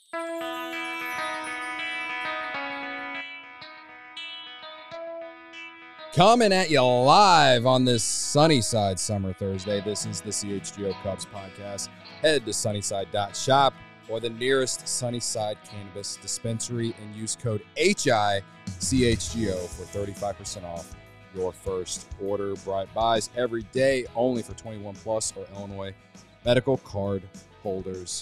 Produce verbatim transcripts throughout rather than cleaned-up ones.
Coming at you live on this Sunnyside Summer Thursday. This is the C H G O Cubs podcast. Head to sunnyside dot shop or the nearest Sunnyside Cannabis dispensary and use code H I C H G O for thirty-five percent off your first order. Bright buys every day, only for twenty-one plus or Illinois medical card holders.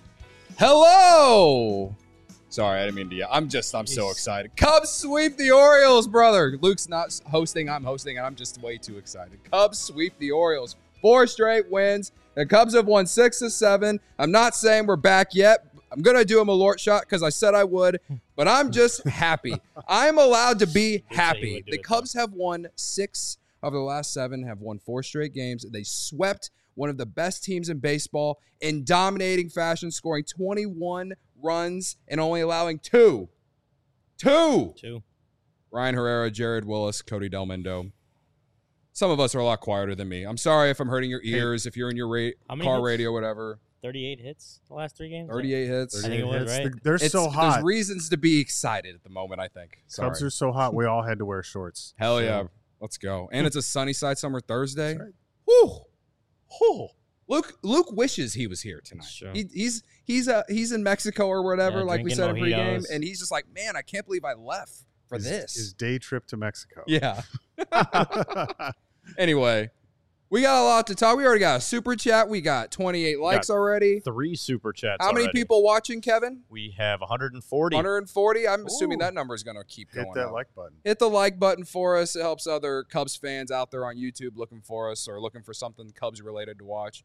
Hello! Sorry, I didn't mean to yell. I'm just, I'm so excited. Cubs sweep the Orioles, brother. Luke's not hosting, I'm hosting, and I'm just way too excited. Cubs sweep the Orioles. Four straight wins. The Cubs have won six of seven. I'm not saying we're back yet. I'm going to do a Malort shot because I said I would, but I'm just happy. I'm allowed to be happy. The Cubs have won six of the last seven, have won four straight games. They swept one of the best teams in baseball in dominating fashion, scoring twenty-one runs and only allowing two. Two. Two. Ryan Herrera, Jared Willis, Cody Delmendo. Some of us are a lot quieter than me. I'm sorry if I'm hurting your ears, if you're in your ra- car hits? radio, whatever. thirty-eight hits the last three games? thirty-eight hits. I think it was, right? They're It's, so hot. There's reasons to be excited at the moment, I think. Sorry. Cubs are so hot, we all had to wear shorts. Hell So, yeah. Let's go. And it's a Sunnyside Summer Thursday. That's right. Whew. Whew. Luke Luke wishes he was here tonight. Sure. He, he's he's uh, he's in Mexico or whatever, Yeah, like we drinking said in pregame, mojitos. and he's just like, man, I can't believe I left for his, this. His day trip to Mexico. Yeah. Anyway, we got a lot to talk. We already got a super chat. We got twenty-eight likes already. Three super chats. How many already. people watching, Kevin? We have one hundred forty. one hundred forty. I'm assuming Ooh. that number is going to keep Hit going that up. like button. Hit the like button for us. It helps other Cubs fans out there on YouTube looking for us or looking for something Cubs related to watch.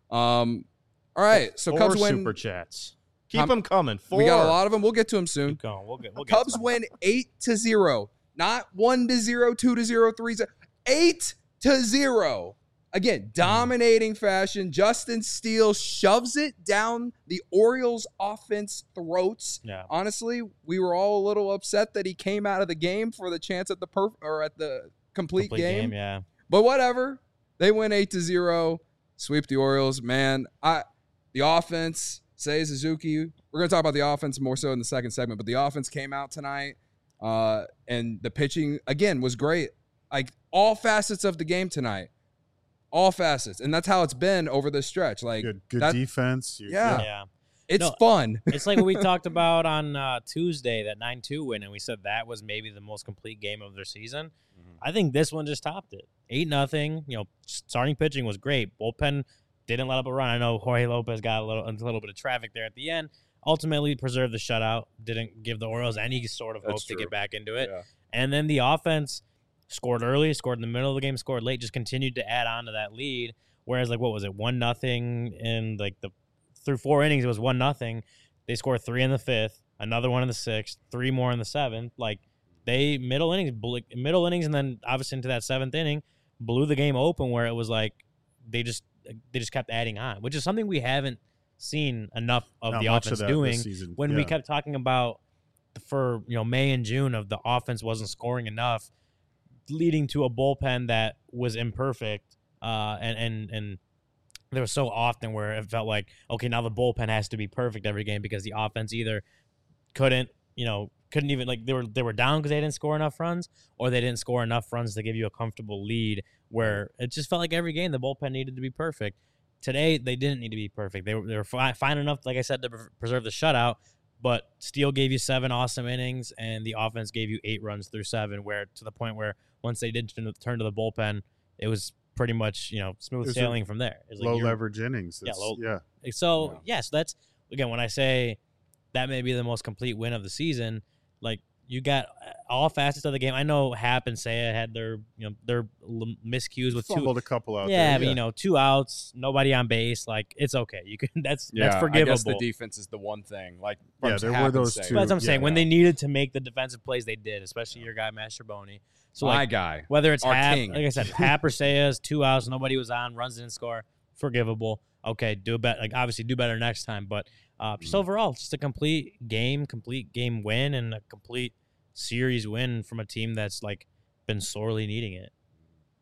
Um, all right, so Four Cubs win. super chats. Keep How- them coming. Four. We got a lot of them. We'll get to them soon. Keep going. We'll get, we'll get Cubs to them. win eight to zero, not one to zero, two to zero, three to eight to zero. Again, dominating fashion. Justin Steele shoves it down the Orioles' offense throats. Yeah. Honestly, we were all a little upset that he came out of the game for the chance at the perf- or at the complete, Complete game. game, yeah. But whatever. They win eight to zero. Sweep the Orioles. Man, I the offense, Seiya Suzuki. We're gonna talk about the offense more so in the second segment, but the offense came out tonight. Uh, and the pitching again was great. Like all facets of the game tonight. All facets. And that's how it's been over this stretch. Like Good, good that- defense. You- Yeah. Yeah. it's No, fun. It's like what we talked about on uh, Tuesday, that nine two win, and we said that was maybe the most complete game of their season. Mm-hmm. I think this one just topped it. eight nothing. You know, starting pitching was great. Bullpen didn't let up a run. I know Jorge Lopez got a little, a little bit of traffic there at the end. Ultimately preserved the shutout. Didn't give the Orioles any sort of That's hope to true. get back into it. Yeah. And then the offense scored early, scored in the middle of the game, scored late, just continued to add on to that lead. Whereas, like, what was it, one nothing in like the through four innings, it was one nothing. They scored three in the fifth, another one in the sixth, three more in the seventh. Like they middle innings, middle innings, and then obviously into that seventh inning, blew the game open. Where it was like they just they just kept adding on, which is something we haven't seen enough of Not the much offense of that doing. this season. When we Yeah. kept talking about for you know May and June of the offense wasn't scoring enough, leading to a bullpen that was imperfect, uh, and and and there was so often where it felt like, okay, now the bullpen has to be perfect every game because the offense either couldn't, you know, couldn't even like they were they were down because they didn't score enough runs, or they didn't score enough runs to give you a comfortable lead. Where it just felt like every game the bullpen needed to be perfect. Today they didn't need to be perfect. They were they were fi- fine enough, like I said, to pre- preserve the shutout. But Steele gave you seven awesome innings, and the offense gave you eight runs through seven. Where to the point where once they did turn, turn to the bullpen, it was pretty much you know smooth It was sailing from there. It was like Low you're- leverage innings. Yeah, It's- low- yeah. So Yeah. yes, that's again when I say that may be the most complete win of the season. Like you got all facets of the game. I know Hap and Seiya had their you know their l- miscues with two. Fumbled a couple out Yeah, there. but you know two outs, nobody on base. Like it's okay. You can that's Yeah, that's forgivable. I guess the defense is the one thing. Like Yeah, from there were Hap and those Seiya. two. But that's what I'm saying. Yeah. When they needed to make the defensive plays, they did, especially your guy Mastroboni. So My like guy. whether it's Our Hap, king. like I said, Hap or Seiya's two outs, nobody was on, runs didn't score, forgivable. Okay, do better. Like obviously, do better next time. But uh, just Mm-hmm. overall, just a complete game, complete game win, and a complete series win from a team that's like been sorely needing it.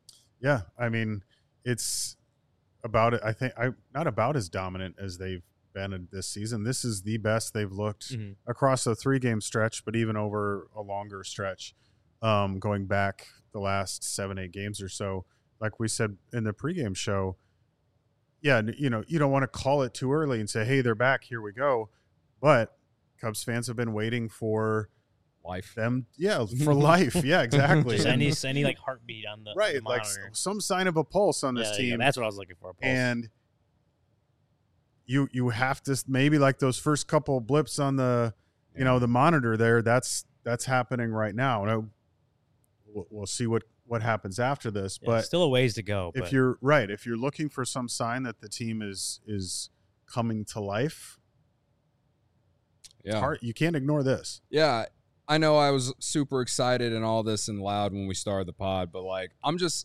Yeah, I mean, it's about it. I think I not about as dominant as they've been in this season. This is the best they've looked Mhm. across a three-game stretch, but even over a longer stretch, um, going back the last seven, eight games or so. Like we said in the pregame show, yeah, you know, you don't want to call it too early and say, hey, they're back, here we go. But Cubs fans have been waiting for Life. them, yeah, for life. Yeah, exactly. Just And- any any like heartbeat on the right, the like s- monitor. some sign of a pulse on this Yeah, there you go. team. That's what I was looking for. a pulse. And you you have to maybe like those first couple blips on the you know the monitor there. That's that's happening right now. And I, we'll, we'll see what what happens after this. Yeah, but still a ways to go. if but you're right, if you're looking for some sign that the team is is coming to life, Yeah. hard, you can't ignore this. Yeah, I know I was super excited and all this and loud when we started the pod, but like I'm just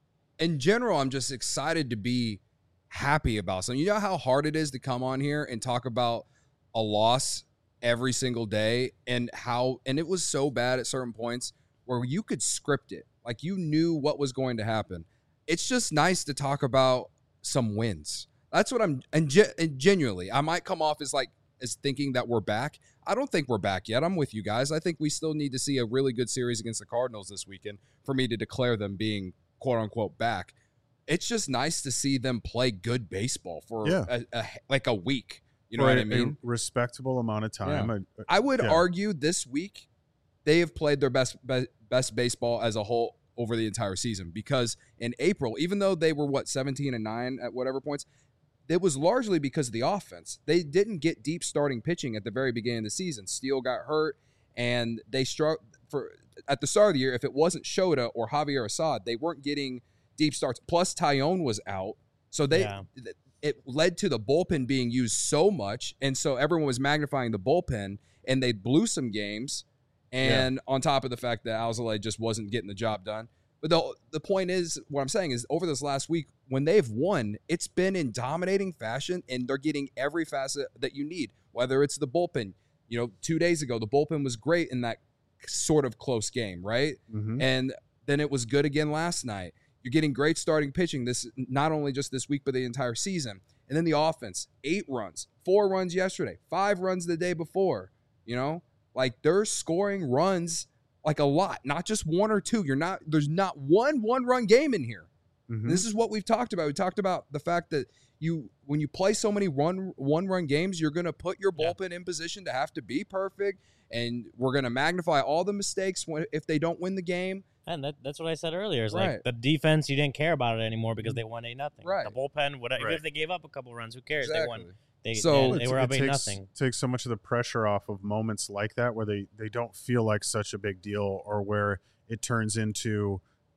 in general, I'm just excited to be happy about something. You know how hard it is to come on here and talk about a loss every single day and how and it was so bad at certain points where you could script it. Like you knew what was going to happen. It's just nice to talk about some wins. That's what I'm and, ge- and genuinely, I might come off as like as thinking that we're back. I don't think we're back yet. I'm with you guys. I think we still need to see a really good series against the Cardinals this weekend for me to declare them being quote unquote back. It's just nice to see them play good baseball for Yeah. a, a, like a week. You know For what a- I mean? A respectable amount of time. Yeah. A- a- I would yeah. argue this week they have played their best be- best baseball as a whole over the entire season because in April, even though they were what seventeen and nine at whatever points, it was largely because of the offense. They didn't get deep starting pitching at the very beginning of the season. Steele got hurt, and they struck for at the start of the year. If it wasn't Shota or Javier Assad, they weren't getting deep starts. Plus, Tyone was out, so they Yeah. th- it led to the bullpen being used so much, and so everyone was magnifying the bullpen, and they blew some games. And on top of the fact that Alzolay just wasn't getting the job done. But the the point is, what I'm saying is, over this last week, when they've won, it's been in dominating fashion, and they're getting every facet that you need, whether it's the bullpen. You know, two days ago, the bullpen was great in that sort of close game, right? Mhm. And then it was good again last night. You're getting great starting pitching, this not only just this week, but the entire season. And then the offense, eight runs, four runs yesterday, five runs the day before, you know? Like, they're scoring runs like a lot, not just one or two. You're not, there's not one one-run game in here. Mhm. This is what we've talked about. We talked about the fact that you, when you play so many run one-run games, you're going to put your Yeah. bullpen in position to have to be perfect, and we're going to magnify all the mistakes when, if they don't win the game. And that, that's what I said earlier. Is Right. like the defense, you didn't care about it anymore because they won eight nothing. Right. The bullpen, whatever. Even Right. if they gave up a couple runs, who cares? They won. They, So- they, Well, they it's- were it up eight takes, nothing. takes so much of the pressure off of moments like that where they, they don't feel like such a big deal, or where it turns into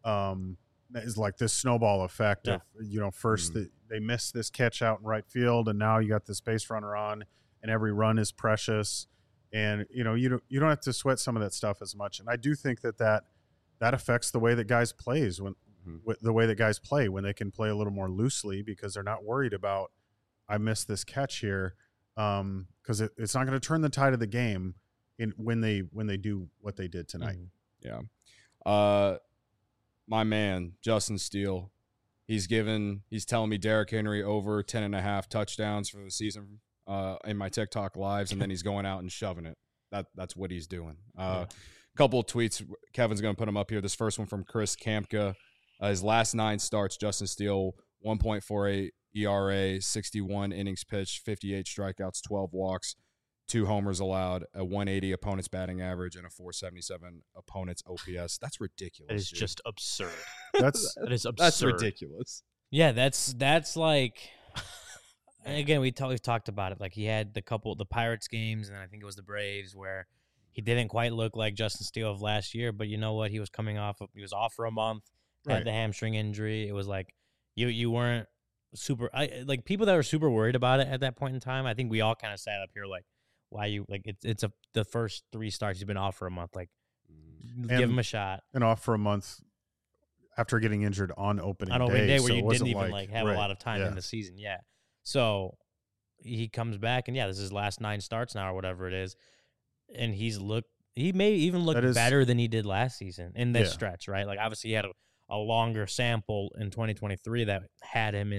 um is like this snowball effect Yeah. of, you know, first Mhm. the, they miss this catch out in right field, and now you got this base runner on, and every run is precious, and you know you don't you don't have to sweat some of that stuff as much. And I do think that that that affects the way that guys plays when Mhm. with the way that guys play when they can play a little more loosely, because they're not worried about, I missed this catch here, um because it, it's not going to turn the tide of the game in when they when they do what they did tonight. Mhm. Yeah. Uh, my man, Justin Steele, he's given, he's telling me Derrick Henry over ten and a half touchdowns for the season uh, in my TikTok lives, and then he's going out and shoving it. That That's what he's doing. Uh, A couple of tweets. Kevin's going to put them up here. This first one from Chris Kampka. Uh, his last nine starts, Justin Steele, one point four eight E R A, sixty-one innings pitched, fifty-eight strikeouts, twelve walks, two homers allowed, a one eighty opponent's batting average, and a four seventy-seven opponent's O P S. That's ridiculous. It is dude. just absurd. That's That is absurd. That's ridiculous. Yeah, that's that's like. And again, we talk, we've talked about it. Like he had the couple, the Pirates games, and I think it was the Braves, where he didn't quite look like Justin Steele of last year. But you know what? He was coming off. Of, he was off for a month. Had Right. the hamstring injury. It was like you you weren't super. I like people that were super worried about it at that point in time. I think we all kind of sat up here like, why you like it's it's a the first three starts he's been off for a month. Like, give And- him a shot. and off for a month after getting injured on opening On day. opening day where so it you wasn't didn't even like, have right, a lot of time yeah. in the season. Yeah. So he comes back and yeah, this is his last nine starts now or whatever it is. And he's looked he may even look That is- better than he did last season in this Yeah. stretch, right? Like obviously he had a, a longer sample in twenty twenty-three that had him in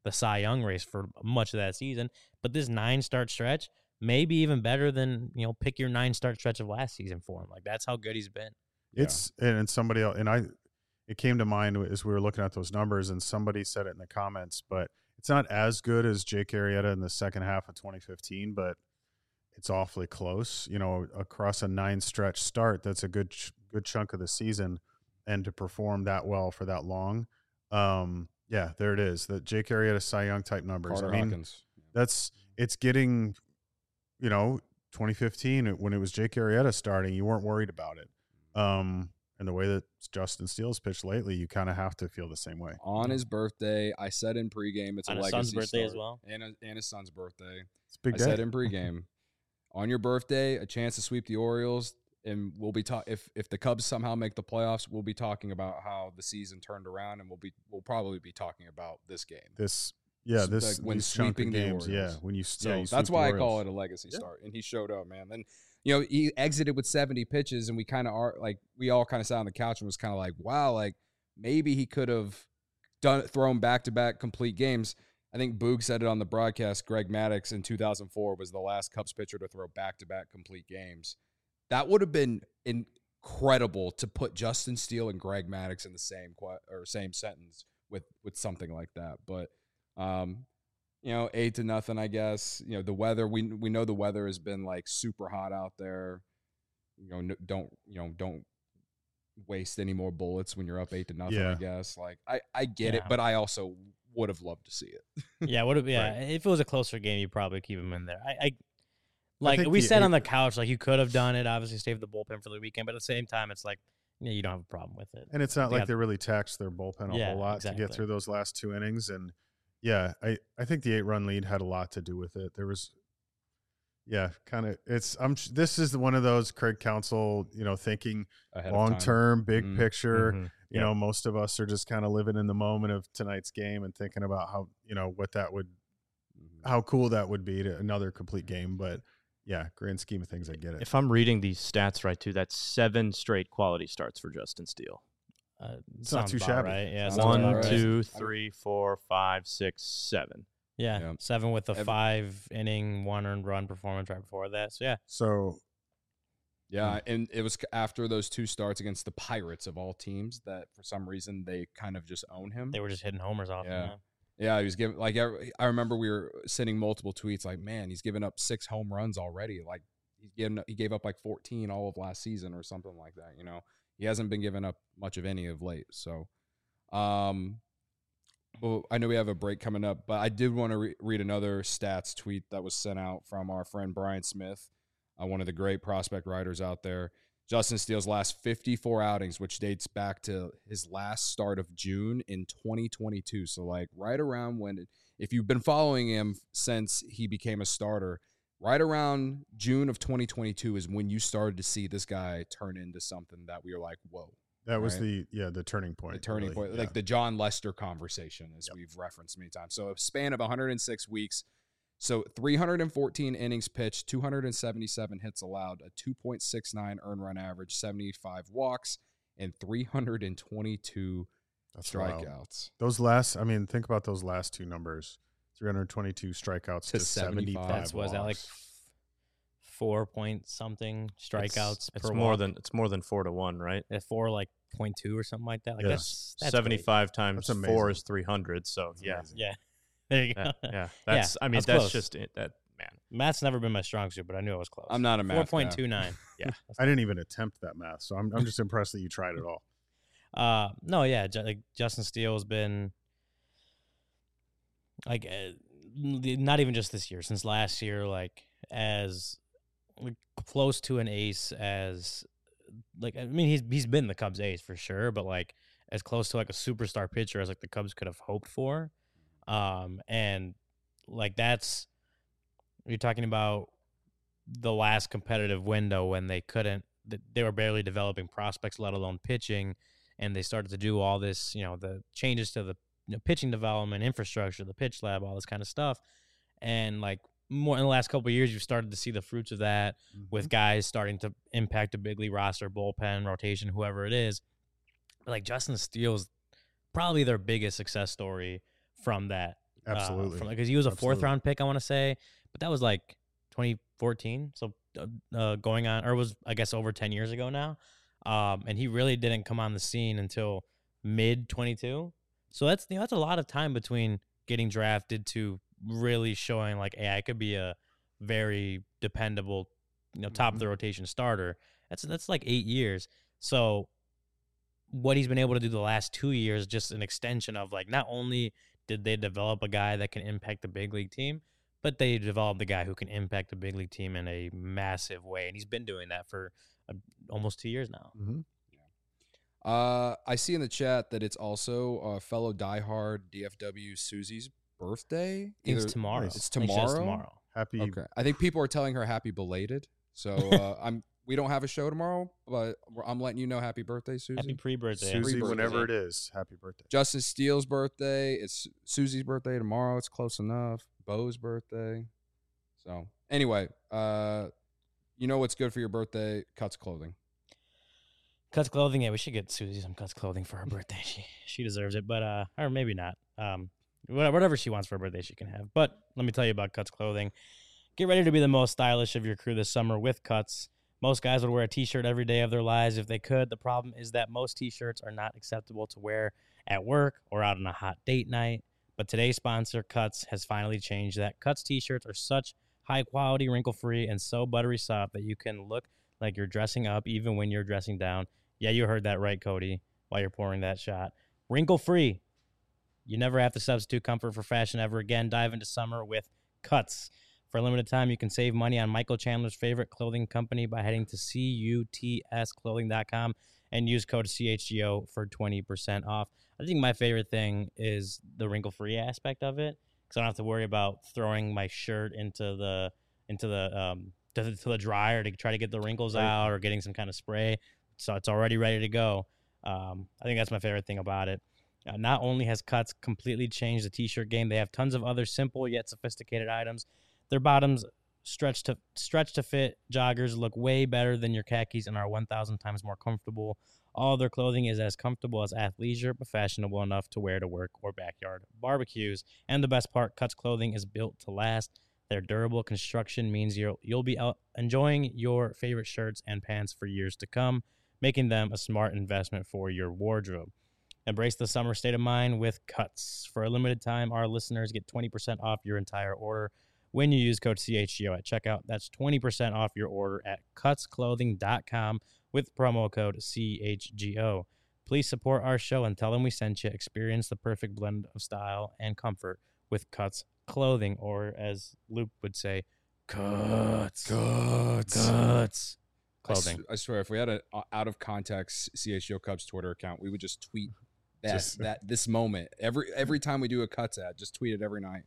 the Cy Young race for much of that season. But this nine start stretch may be even better than, you know, pick your nine start stretch of last season for him. Like, that's how good he's been. It's and, and somebody else, and I, it came to mind as we were looking at those numbers, and somebody said it in the comments, but it's not as good as Jake Arrieta in the second half of twenty fifteen, but it's awfully close. You know, across a nine stretch start, that's a good ch- good chunk of the season, and to perform that well for that long, um, yeah, there it is. The Jake Arrieta Cy Young type numbers. Carter I mean, Hawkins. that's it's getting, you know, twenty fifteen when it was Jake Arrieta starting, you weren't worried about it. Um, and the way that Justin Steele's pitched lately, you kind of have to feel the same way. On his birthday, I said in pregame, it's On a his legacy son's birthday start. as well? And, a, and his son's birthday. It's a big I day. said in pregame, on your birthday, a chance to sweep the Orioles, and we'll be ta- if if the Cubs somehow make the playoffs, we'll be talking about how the season turned around, and we'll be we'll probably be talking about this game. This, yeah, So, this like, when these chunk of sweeping the games, yeah, Orioles. when you, So yeah, you that's sweep why I the call Orioles. it a legacy Yeah. start. And he showed up, man. Then, you know, he exited with seventy pitches, and we kind of are like, we all kind of sat on the couch and was kind of like, wow, like maybe he could have done thrown back to back complete games. I think Boog said it on the broadcast. Greg Maddux in two thousand four was the last Cubs pitcher to throw back to back complete games. That would have been incredible to put Justin Steele and Greg Maddux in the same qu- or same sentence with with something like that. But um, you know, eight to nothing, I guess. You know, the weather, we we know the weather has been like super hot out there. You know, no, don't, you know, don't waste any more bullets when you're up eight to nothing, Yeah. I guess. Like, I, I get it, Yeah. but I also would have loved to see it. Yeah, would have. Yeah, Right. if it was a closer game, you'd probably keep him in there. I, I like think we the said eight- on the couch, like you could have done it. Obviously, save the bullpen for the weekend, but at the same time, it's like yeah, you don't have a problem with it. And it's not They like got- they really taxed their bullpen a Yeah, whole lot to exactly. get through those last two innings. And yeah, I, I think the eight run lead had a lot to do with it. There was, yeah, kind of, it's, I'm, this is one of those Craig Counsell, you know, thinking Ahead of long time. term, big Mm, picture. Mhm. You Yep. know, most of us are just kind of living in the moment of tonight's game and thinking about how, you know, what that would, Mhm. how cool that would be to another complete game. But yeah, grand scheme of things, I get it. If I'm reading these stats right, too, that's seven straight quality starts for Justin Steele. Uh, It's not sounds too about shabby. Right? Yeah, Sounds sounds One, about about right. two, three, four, five, six, seven. Yeah, Yeah. seven with a Ev- five inning, one earned run performance right before that. So yeah, So Yeah, and it was after those two starts against the Pirates of all teams that for some reason they kind of just own him. they were just hitting homers off. Yeah. him, Yeah, he was giving like every- I remember we were sending multiple tweets like, man, he's given up six home runs already. Like he's given he gave up like fourteen all of last season or something like that. You know, he hasn't been giving up much of any of late. So, um, well, I know we have a break coming up, but I did want to re- read another stats tweet that was sent out from our friend Brian Smith, uh, one of the great prospect writers out there. Justin Steele's last fifty-four outings, which dates back to his last start of June in twenty twenty-two. So, like, right around when, it, if you've been following him since he became a starter, right around June of twenty twenty-two is when you started to see this guy turn into something that we were like, whoa. that was Right. the, yeah, the turning point. The turning really. point, Yeah. like the John Lester conversation, as Yep. we've referenced many times. So a span of one hundred six weeks. So three hundred fourteen innings pitched, two hundred seventy-seven hits allowed, a two point six nine earned run average, seventy-five walks, and three hundred twenty-two That's wild. strikeouts. Those last, I mean, think about those last two numbers: three hundred twenty-two strikeouts To to seventy-five. That's was that like walks. f- four point something strikeouts It's, it's per more walk? than it's more than four to one, right? At four like point two or something like that. Like Yeah. that's, that's Seventy-five times That's four amazing. is three hundred. So That's yeah, amazing. great. Yeah, there you go. yeah, yeah. That's I mean that's that's, close. just it. That man. Math's never been my strong suit, but I knew I was close. I'm not a math four guy. point two nine. Yeah. I didn't even attempt that math, so I'm, I'm just impressed that you tried it all. Uh, no, yeah, Ju- like Justin Steele has been like uh, not even just this year, since last year, like as like, close to an ace as like I mean he's he's been the Cubs ace for sure, but like as close to like a superstar pitcher as like the Cubs could have hoped for. Um, and like that's you're talking about the last competitive window when they couldn't they were barely developing prospects, let alone pitching. And they started to do all this, you know, the changes to the you know, pitching development, infrastructure, the pitch lab, all this kind of stuff. And like more in the last couple of years, you've started to see the fruits of that with guys starting to impact a big league roster, bullpen, rotation, whoever it is. But like Justin Steele's probably their biggest success story from that Absolutely. Because he was a fourth Absolutely. round pick, I want to say, but that was like twenty fourteen. So uh, uh, going on, or was I guess over ten years ago now. Um, and he really didn't come on the scene until mid twenty-two. So that's you know, that's a lot of time between getting drafted to really showing like, hey, I could be a very dependable, you know, top of the rotation starter. That's that's like eight years. So what he's been able to do the last two years, just an extension of like, not only did they develop a guy that can impact the big league team, but they developed a guy who can impact the big league team in a massive way. And he's been doing that for uh, almost two years now. Mm-hmm. Uh, I see in the chat that it's also uh, fellow diehard D F W Susie's birthday. I think it's Either- tomorrow. It's I think she says tomorrow? tomorrow. Happy. Okay. I think people are telling her happy belated. So uh, I'm. We don't have a show tomorrow, but we're- I'm letting you know happy birthday, Susie. Happy pre-birthday. Susie, Pre-birthday. whenever it is, happy birthday. Justin Steele's birthday. It's Susie's birthday tomorrow. It's close enough. Bo's birthday. So anyway, uh, you know what's good for your birthday? Cuts clothing. Cuts clothing. Yeah, we should get Susie some Cuts clothing for her birthday. She she deserves it, but uh, or maybe not. Um, wha- whatever she wants for her birthday, she can have. But let me tell you about Cuts clothing. Get ready to be the most stylish of your crew this summer with Cuts. Most guys would wear a t-shirt every day of their lives if they could. The problem is that most t-shirts are not acceptable to wear at work or out on a hot date night. But today's sponsor, Cuts, has finally changed that. Cuts t-shirts are such high quality, wrinkle-free, and so buttery soft that you can look like you're dressing up even when you're dressing down. Yeah, you heard that right, Cody, while you're pouring that shot. Wrinkle-free. You never have to substitute comfort for fashion ever again. Dive into summer with Cuts. For a limited time, you can save money on Michael Chandler's favorite clothing company by heading to cuts clothing dot com and use code C H G O for twenty percent off. I think my favorite thing is the wrinkle-free aspect of it, because I don't have to worry about throwing my shirt into the into the um to the, to the dryer to try to get the wrinkles Right. out or getting some kind of spray. So it's already ready to go. Um, I think that's my favorite thing about it. Uh, not only has Cuts completely changed the t-shirt game, they have tons of other simple yet sophisticated items. Their bottoms stretch to stretch to fit joggers look way better than your khakis and are one thousand times more comfortable. All their clothing is as comfortable as athleisure, but fashionable enough to wear to work or backyard barbecues. And the best part, Cuts clothing is built to last. Their durable construction means you'll you'll be out enjoying your favorite shirts and pants for years to come, making them a smart investment for your wardrobe. Embrace the summer state of mind with Cuts. For a limited time, our listeners get twenty percent off your entire order when you use code C H G O at checkout. That's twenty percent off your order at cuts clothing dot com with promo code C H G O. Please support our show and tell them we sent you. Experience the perfect blend of style and comfort with Cuts clothing, or as Luke would say, Cuts. Cuts. Cuts. I, s- Clothing. I swear, if we had an uh, out of context C H G O Cubs Twitter account, we would just tweet that Just- that this moment every every time we do a Cuts ad. Just tweet it every night.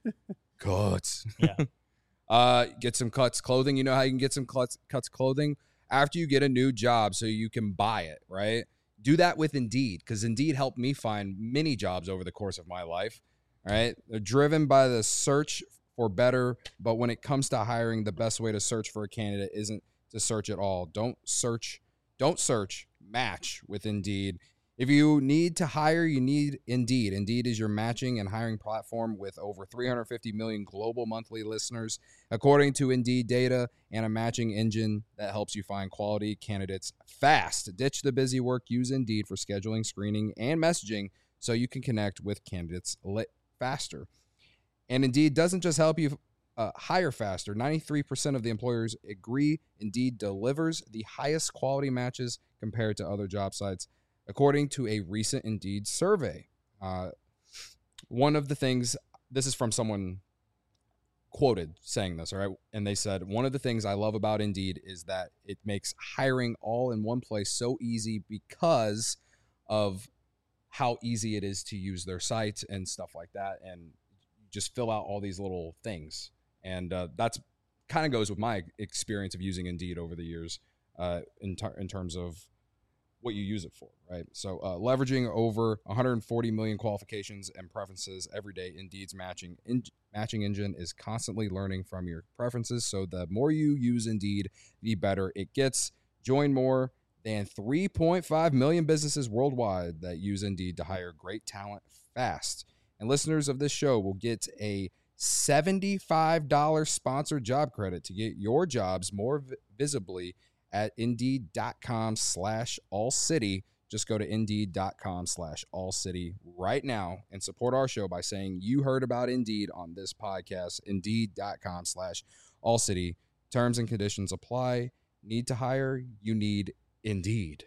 Cuts. Yeah. Uh, get some Cuts clothing. You know how you can get some Cuts Cuts clothing after you get a new job, so you can buy it. Right. Do that with Indeed, because Indeed helped me find many jobs over the course of my life. All right. They're driven by the search for better, but when it comes to hiring, the best way to search for a candidate isn't to search at all. Don't search, don't search, match with Indeed. If you need to hire, you need Indeed. Indeed is your matching and hiring platform with over three hundred fifty million global monthly listeners, according to Indeed data, and a matching engine that helps you find quality candidates fast. Ditch the busy work. Use Indeed for scheduling, screening, and messaging so you can connect with candidates lit faster. And Indeed doesn't just help you uh, hire faster. ninety-three percent of the employers agree Indeed delivers the highest quality matches compared to other job sites, according to a recent Indeed survey. Uh, one of the things, this is from someone quoted saying this, all right? And they said, one of the things I love about Indeed is that it makes hiring all in one place so easy because of how easy it is to use their site and stuff like that. And just fill out all these little things. And uh, that's kind of goes with my experience of using Indeed over the years uh, in, ter- in terms of what you use it for, right? So uh, leveraging over one hundred forty million qualifications and preferences every day, Indeed's matching in- matching engine is constantly learning from your preferences. So the more you use Indeed, the better it gets. Join more than three point five million businesses worldwide that use Indeed to hire great talent fast. And listeners of this show will get a seventy-five dollars sponsored job credit to get your jobs more vi- visibly at indeed.com slash all city. Just go to indeed.com slash all city right now and support our show by saying you heard about Indeed on this podcast. Indeed.com slash all city. Terms and conditions apply. Need to hire? You need Indeed.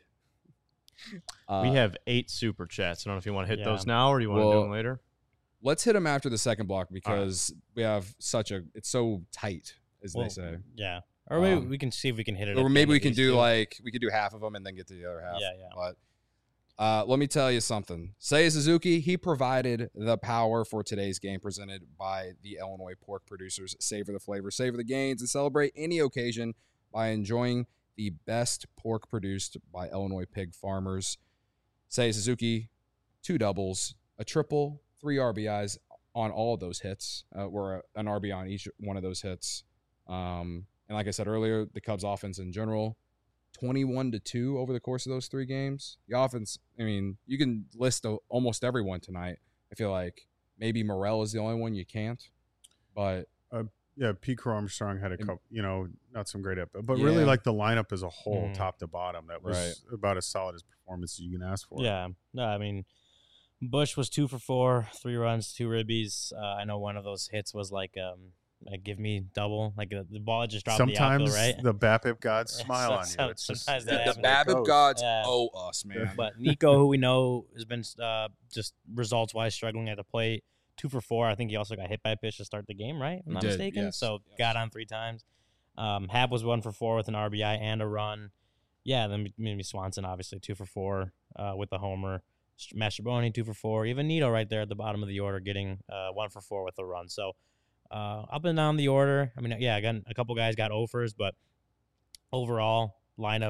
Uh, we have eight super chats. I don't know if you want to hit Yeah. those now or do you want to Well, do them later? Let's hit them after the second block because we have such a, it's so tight, as Well, they say. Yeah. Or maybe Um, we can see if we can hit it. at Or the maybe end we of can these do two. like, we could do half of them and then get to the other half. Yeah, yeah. But uh, let me tell you something. Seiya Suzuki, he provided the power for today's game presented by the Illinois pork producers. Savor the flavor, savor the gains, and celebrate any occasion by enjoying the best pork produced by Illinois pig farmers. Seiya Suzuki, two doubles, a triple, three R B Is on all of those hits. Uh, were an R B I on each one of those hits. Um, and like I said earlier, the Cubs offense in general, twenty-one to two over the course of those three games. The offense, I mean, you can list a, almost everyone tonight. I feel like maybe Morel is the only one you can't, but Yeah, Pete Armstrong had a And- couple, you know, not some great episodes, but really Yeah. like the lineup as a whole, Mhm. top to bottom, that was Right. about as solid as performance as you can ask for. Yeah. No, I mean, Bush was two for four, three runs, two ribbies. Uh, I know one of those hits was like, um, like give me double, like uh, the ball just dropped in the Sometimes outfield, right? the BABIP gods Yeah, smile so- on you. so- It's just sometimes the, that the happens. how it BABIP goes. gods Yeah. owe us, man. But Nico, who we know has been uh, just results wise struggling at the plate, two for four. I think he also got hit by a pitch to start the game, right? If I'm He not did, mistaken. yes, So yes. got on three times. Um, Hab was one for four with an R B I and a run. Yeah, then maybe Swanson obviously two for four uh, with the homer. Mastrobuoni two for four. Even Nito right there at the bottom of the order getting uh, one for four with a run. So uh, up and down the order. I mean, yeah, again, a couple guys got offers, but overall lineup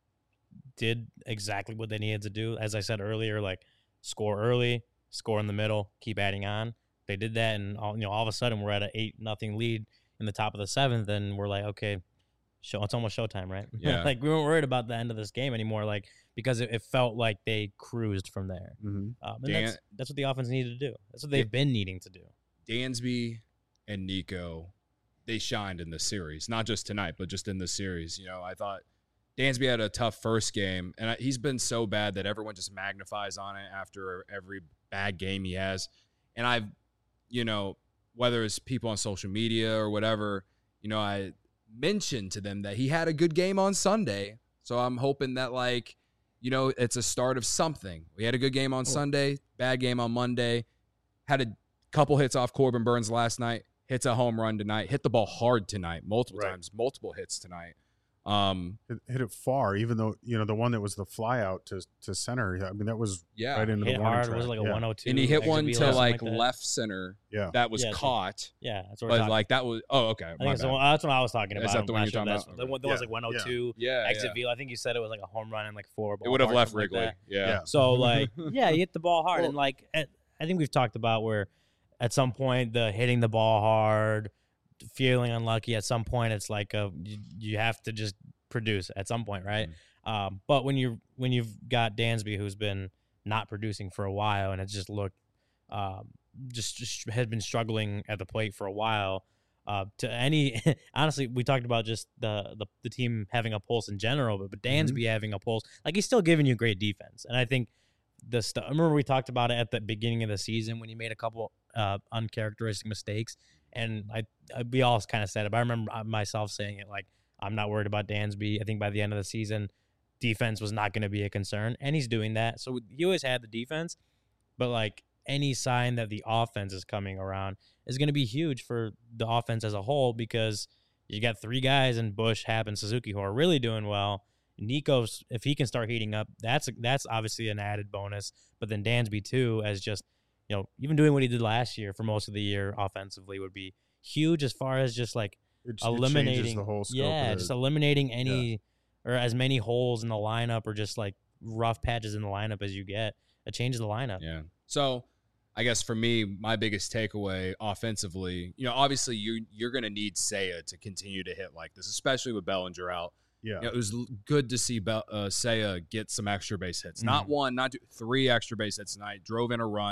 did exactly what they needed to do. As I said earlier, like score early, score in the middle, keep adding on. They did that, and all, you know, all of a sudden we're at an eight nothing lead in the top of the seventh, and we're like, okay, show it's almost showtime, right? Yeah. Like we weren't worried about the end of this game anymore, like because it, it felt like they cruised from there. Mhm. Um, and Dan- that's that's what the offense needed to do. That's what they've been needing to do. Dansby and Nico, they shined in this series, not just tonight, but just in this series. You know, I thought Dansby had a tough first game, and I, he's been so bad that everyone just magnifies on it after every bad game he has. And I've, you know, whether it's people on social media or whatever, you know, I mentioned to them that he had a good game on Sunday. So I'm hoping that, like, you know, it's a start of something. We had a good game on Sunday, bad game on Monday, had a couple hits off Corbin Burns last night, hits a home run tonight, hit the ball hard tonight, multiple Right. times, multiple hits tonight. Um, Hit, hit it far, even though, you know, the one that was the fly out to, to center, I mean, that was yeah. right into Hit the warning hard track. was it like a yeah. one oh two. And he hit exit one velo, to something like that? left center Yeah. that was Yeah, so- caught, Yeah, that's what we're but talking. like that was, oh, okay. I my think it's the bad. one, that's what I was talking Is about. that I'm the one not you're sure talking that's- about? The one that was Yeah, like one oh two yeah, exit yeah. velo. I think you said it was like a home run and like four. It would have ballpark, left something like Wrigley. that. yeah. Yeah. So like, yeah, you hit the ball hard, Well- and like, at, I think we've talked about where, at some point, the hitting the ball hard, feeling unlucky. At some point, it's like a you, you have to just produce at some point, right? Um, but when you when you've got Dansby, who's been not producing for a while, and it's just looked, um, just just had been struggling at the plate for a while. Uh, to any, honestly, we talked about just the, the the team having a pulse in general, but but Dansby having a pulse, like he's still giving you great defense, and I think the stuff. I remember we talked about it at the beginning of the season when he made a couple uh, uncharacteristic mistakes, and I, I we all kind of said it. But I remember myself saying it like I'm not worried about Dansby. I think by the end of the season, defense was not going to be a concern, and he's doing that. So he always had the defense, but like any sign that the offense is coming around is going to be huge for the offense as a whole, because you got three guys in Bush, Hab, and Suzuki who are really doing well. Nico's, if he can start heating up, that's that's obviously an added bonus. But then Dansby too, as just, you know, even doing what he did last year for most of the year offensively would be huge as far as just like It, it changes eliminating the whole scope yeah, of just the, eliminating any or as many holes in the lineup or just like rough patches in the lineup as you get. It changes the lineup. Yeah. So I guess for me, my biggest takeaway offensively, you know, obviously you you're going to need Seiya to continue to hit like this, especially with Bellinger out. yeah. You know, it was l- good to see Bell, uh, Seiya get some extra base hits. Not Mhm. one, not two, three extra base hits tonight. Drove in a run.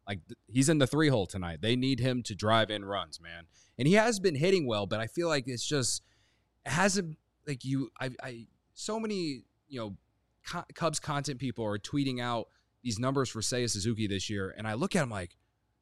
Like th- he's in the three hole tonight. They need him to drive in runs, man. And he has been hitting well, but I feel like it's just it hasn't like you. I, I so many you know co- Cubs content people are tweeting out these numbers for Seiya Suzuki this year, and I look at him like,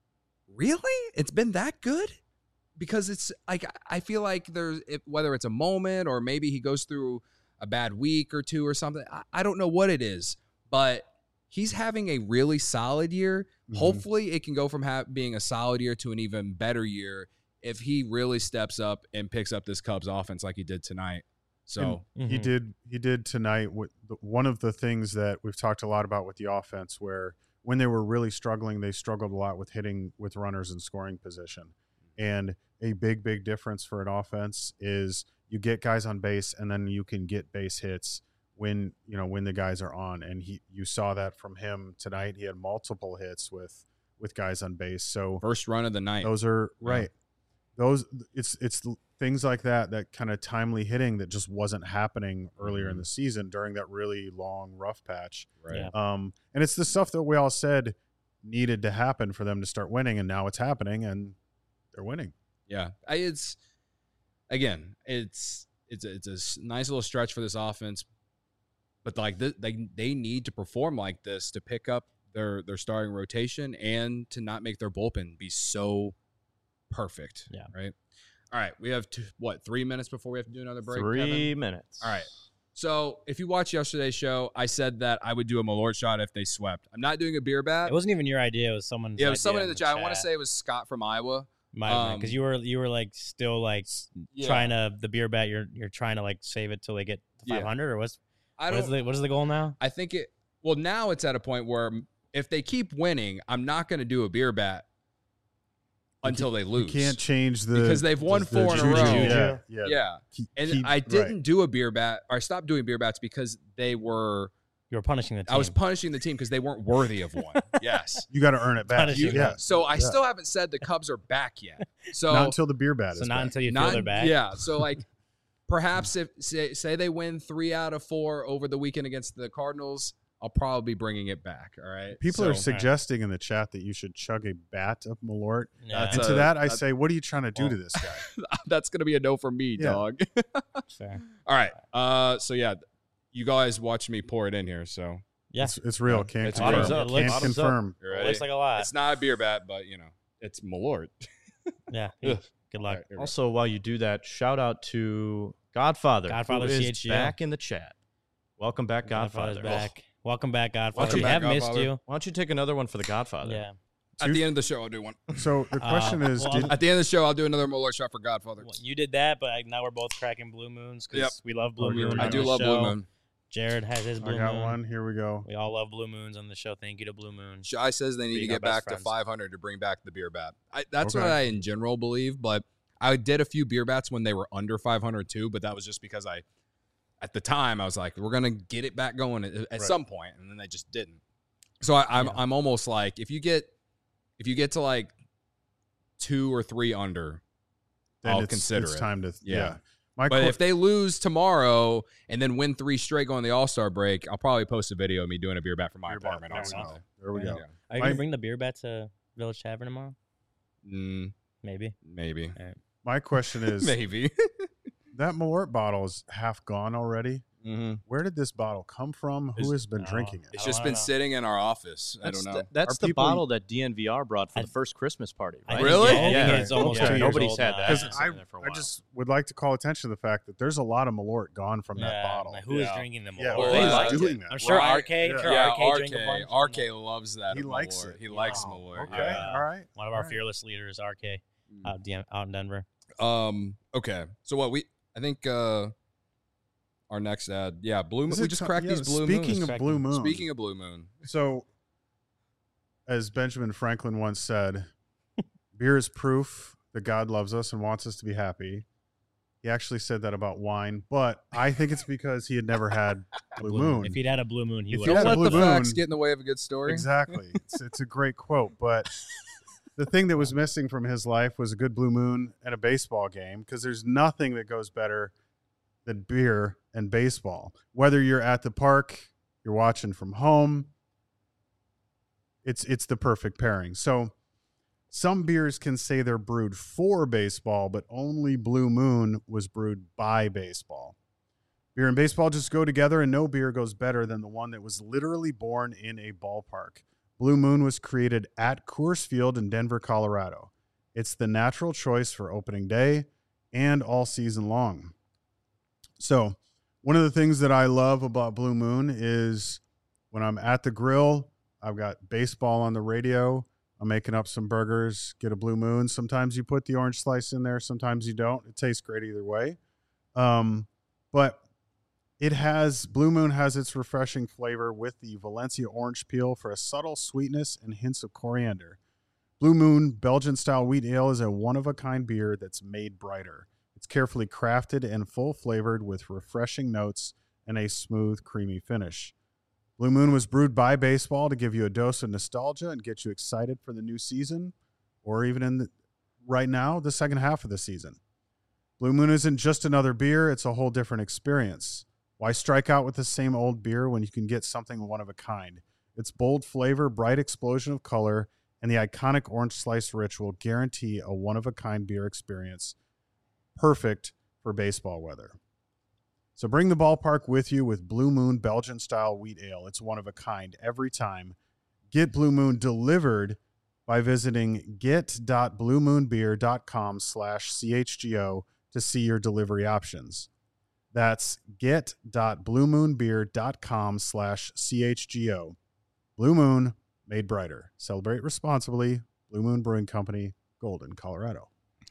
really? It's been that good? Because it's like I feel like there's if, whether it's a moment or maybe he goes through a bad week or two or something. I, I don't know what it is, but he's having a really solid year. Mm-hmm. Hopefully, it can go from ha- being a solid year to an even better year if he really steps up and picks up this Cubs offense like he did tonight. So mm-hmm. he did he did tonight. With the, one of the things that we've talked a lot about with the offense, where when they were really struggling, they struggled a lot with hitting with runners in scoring position. And a big, big difference for an offense is you get guys on base, and then you can get base hits when you know when the guys are on. And he, you saw that from him tonight. He had multiple hits with with guys on base. So first run of the night. Those are right. Yeah. Those it's it's things like that, that kind of timely hitting that just wasn't happening earlier mm-hmm. in the season during that really long rough patch. Right. Yeah. Um, and it's the stuff that we all said needed to happen for them to start winning, and now it's happening, and they're winning. Yeah, I, it's again, it's it's a, it's a nice little stretch for this offense, but like th- they they need to perform like this to pick up their their starting rotation and to not make their bullpen be so perfect. Yeah. Right. All right. We have two, what three minutes before we have to do another break. Three Kevin? minutes. All right. So if you watched yesterday's show, I said that I would do a Malort shot if they swept. I'm not doing a beer bat. It wasn't even your idea. It was someone's Yeah, it was idea someone in the, the chat. chat. I want to say it was Scott from Iowa. Might have because Um, you were you were like still like Yeah. trying to the beer bet. You're you're trying to like save it till they get to Yeah. five hundred or what's I what don't. is the what is the goal now? I think it. Well, now it's at a point where if they keep winning, I'm not going to do a beer bat until they lose. You can't change the Because they've won the four in a juju. row. Yeah, yeah. Yeah, Keep- and keep- I didn't right. do a beer bat, or I stopped doing beer bats because they were. You were punishing the team. I was punishing the team because they weren't worthy of one. Yes. You got to earn it back. Punishing You- yeah, them. So I Yeah. still haven't said the Cubs are back yet. So not until the beer bat so is not back. until you not- feel they're back. Yeah. So like, perhaps if say, say they win three out of four over the weekend against the Cardinals, I'll probably be bringing it back. All right. People So- are suggesting in the chat that you should chug a bat of Malort. Yeah, That's And a- to that, I that's- say, what are you trying to do well, to this guy? That's gonna be a no for me, Yeah. dog. fair. All right. Uh. So yeah, you guys watch me pour it in here. So Yeah, It's, it's real. Can't It's confirm. real. It looks- Can't Bottoms up. confirm. you it ready? looks like a lot. It's not a beer bat, but you know, it's Malort. Yeah, Ugh. good All luck. right, here we go. Also, while you do that, shout out to Godfather. Godfather who is C H G O. back in the chat. Welcome back, Godfather's Godfather. back. Welcome back, Godfather. Welcome we back, have missed Godfather. you. Why don't you take another one for the Godfather? Yeah. At the end of the show, I'll do one. So the question Uh, is, well, did, At the end of the show, I'll do another Malort shot for Godfather. Well, you did that, but I, now we're both cracking blue moons because Yep. we love blue Oh, here moon. we I on do the love show. Blue Moon. Jared has his blue I got moon. one. Here we go. We all love blue moons on the show. Thank you to Blue Moon. Shy says they need Being to our get back best to friends. five hundred to bring back the beer bat. I, that's Okay. what I in general believe, but I did a few beer bats when they were under five hundred too, but that was just because I, at the time, I was like, we're going to get it back going at, at Right. some point, and then they just didn't. So I, I'm Yeah. I'm almost like, if you get if you get to like two or three under, Then I'll it's, consider it's it. time to. Yeah. Yeah. My But que- if they lose tomorrow and then win three straight going the All-Star break, I'll probably post a video of me doing a beer bat from my Beer bat, apartment on there we go. Sunday. there we Yeah. go. Yeah. Are you My- gonna bring the beer bat to Village Tavern tomorrow? Mm, Maybe. maybe. My question is, Maybe. that Malort bottle is half gone already. mm-hmm. Where did this bottle come from? Who Is- has been Oh. drinking it? It's I just don't been know. sitting in our office. I That's don't know. The, that's Are the people- bottle that D N V R brought for I- the first Christmas party, I right? think- Really? Yeah, I think Yeah. it's almost Okay. two years Nobody's old had now. that. Because It's I, been there for a I while. just would like to call attention to the fact that there's a lot of Malort gone from that Yeah, bottle. like, who is Yeah. drinking them? Yeah, all? who They is like doing it. that? I'm sure Right. R K. Yeah. I'm sure yeah, R K drink a R K. bunch. R K loves that. He of likes Malort. it. He likes Wow. Malort. Okay, Yeah. all right. One of all our right. fearless leaders, R K, out, D- out in Denver. Um. Okay. So what we? I think uh, our next ad. Yeah, Blue Moon. Is We it just ti- cracked yeah, these Blue Speaking Moons. of Blue Moon, Speaking of Blue Moon. so as Benjamin Franklin once said, beer is proof that God loves us and wants us to be happy. He actually said that about wine, but I think it's because he had never had Blue, Moon. If he'd had a blue moon, he If would he Don't had a have. let Blue the facts Moon- get in the way of a good story. Exactly. It's, it's a great quote, but the thing that was missing from his life was a good Blue Moon and a baseball game, because there's nothing that goes better than beer and baseball. Whether you're at the park, you're watching from home, it's it's the perfect pairing. So some beers can say they're brewed for baseball, but only Blue Moon was brewed by baseball. Beer and baseball just go together, and no beer goes better than the one that was literally born in a ballpark. Blue Moon was created at Coors Field in Denver, Colorado. It's the natural choice for opening day and all season long. So one of the things that I love about Blue Moon is when I'm at the grill, I've got baseball on the radio. I'm making up some burgers, get a Blue Moon. Sometimes you put the orange slice in there. Sometimes you don't. It tastes great either way. Um, but it has, Blue Moon has its refreshing flavor with the Valencia orange peel for a subtle sweetness and hints of coriander. Blue Moon Belgian-style wheat ale is a one-of-a-kind beer that's made brighter. It's carefully crafted and full-flavored with refreshing notes and a smooth, creamy finish. Blue Moon was brewed by baseball to give you a dose of nostalgia and get you excited for the new season, or even in the, right now, the second half of the season. Blue Moon isn't just another beer, it's a whole different experience. Why strike out with the same old beer when you can get something one of a kind? Its bold flavor, bright explosion of color, and the iconic orange slice ritual guarantee a one-of-a-kind beer experience perfect for baseball weather. So bring the ballpark with you with Blue Moon Belgian-style wheat ale. It's one of a kind every time. Get Blue Moon delivered by visiting get.bluemoonbeer.com slash CHGO to see your delivery options. That's get.bluemoonbeer.com slash CHGO. Blue Moon, made brighter. Celebrate responsibly. Blue Moon Brewing Company, Golden, Colorado.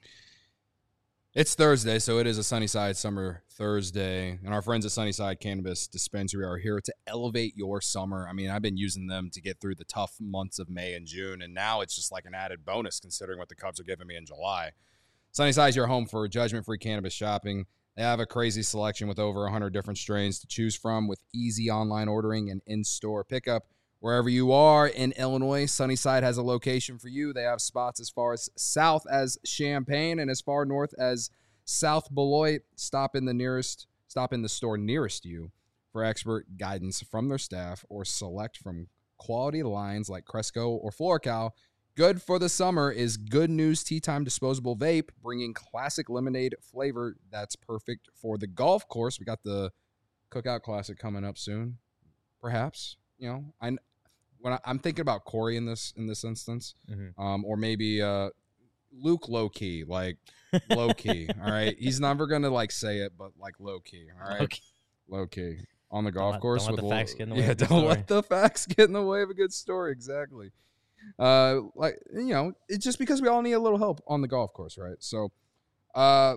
It's Thursday, so it is a Sunnyside Summer Thursday, and our friends at Sunnyside Cannabis Dispensary are here to elevate your summer. I mean, I've been using them to get through the tough months of May and June, and now it's just like an added bonus considering what the Cubs are giving me in July. Sunnyside is your home for judgment-free cannabis shopping. They have a crazy selection with over one hundred different strains to choose from with easy online ordering and in-store pickup. Wherever you are in Illinois, Sunnyside has a location for you. They have spots as far as south as Champaign and as far north as South Beloit. Stop in the nearest, stop in the store nearest you for expert guidance from their staff or select from quality lines like Cresco or FloraCal. Good for the summer is Good News Tea Time Disposable Vape, bringing classic lemonade flavor that's perfect for the golf course. We got the Cookout Classic coming up soon, perhaps. You know, I when I, I'm thinking about Corey in this in this instance, mm-hmm. um, or maybe uh, Luke low key, like low key. All right, he's never gonna like say it, but like low key. All right, okay. Low key on the golf don't course. Let, don't with let the facts get in the way. Yeah, of the don't story. let the facts get in the way of a good story. Exactly. Uh, like you know, it's just because we all need a little help on the golf course, right? So, uh.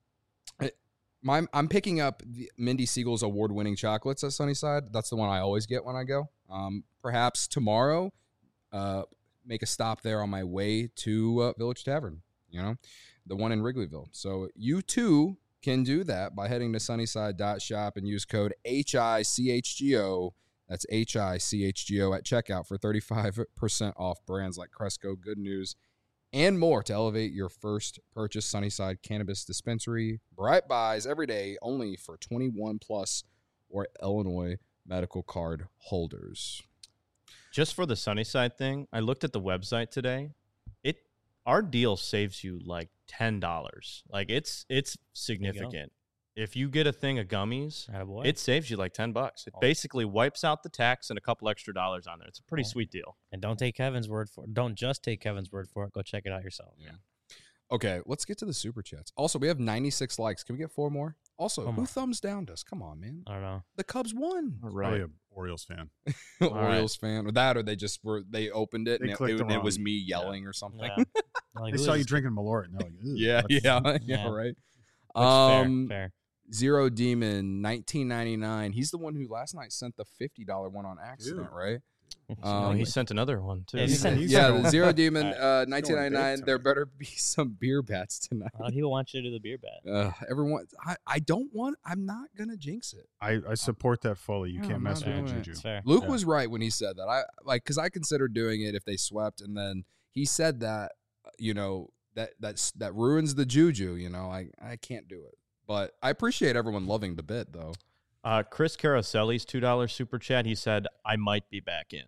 My, I'm picking up the Mindy Siegel's award-winning chocolates at Sunnyside. That's the one I always get when I go. Um, perhaps tomorrow, uh, make a stop there on my way to uh, Village Tavern, you know, the one in Wrigleyville. So you, too, can do that by heading to sunnyside dot shop and use code H I C H G O. That's H I C H G O at checkout for thirty-five percent off brands like Cresco, Good News, and more to elevate your first purchase. Sunnyside Cannabis Dispensary. Bright buys every day, only for twenty-one plus or Illinois medical card holders. Just for the Sunnyside thing, I looked at the website today. It our deal saves you like ten dollars. Like it's it's significant. If you get a thing of gummies, Attaboy. It saves you like ten bucks. It oh. basically wipes out the tax and a couple extra dollars on there. It's a pretty oh. sweet deal. And don't take Kevin's word for it. Don't just take Kevin's word for it. Go check it out yourself. Yeah. Okay, let's get to the super chats. Also, we have ninety-six likes. Can we get four more? Also, Come who on. thumbs downed us? Come on, man. I don't know. The Cubs won. All right. Probably an Orioles fan. Orioles right. fan. Or that, or they just were, they opened it they and it, it, it was me yelling yeah. or something. Yeah. Like, they saw you drinking Malort. And like, yeah, yeah, yeah, yeah, right. Which, um, fair, fair. Zero Demon, nineteen ninety-nine. He's the one who last night sent the fifty dollar one on accident, Dude. right? Um, no, he sent another one, too. Yeah, he sent, yeah the Zero Demon, uh, nineteen ninety-nine. There better be some beer bats tonight. A lot of people want you to do the beer bat. Uh, everyone, I, I don't want, I'm not going to jinx it. I, I support that fully. You yeah, can't I'm mess with the juju. Luke yeah. was right when he said that. I like, because I considered doing it if they swept, and then he said that, you know, that that's, that ruins the juju, you know. I, I can't do it. But I appreciate everyone loving the bit, though. Uh, Chris Caroselli's two dollar super chat, he said, I might be back in.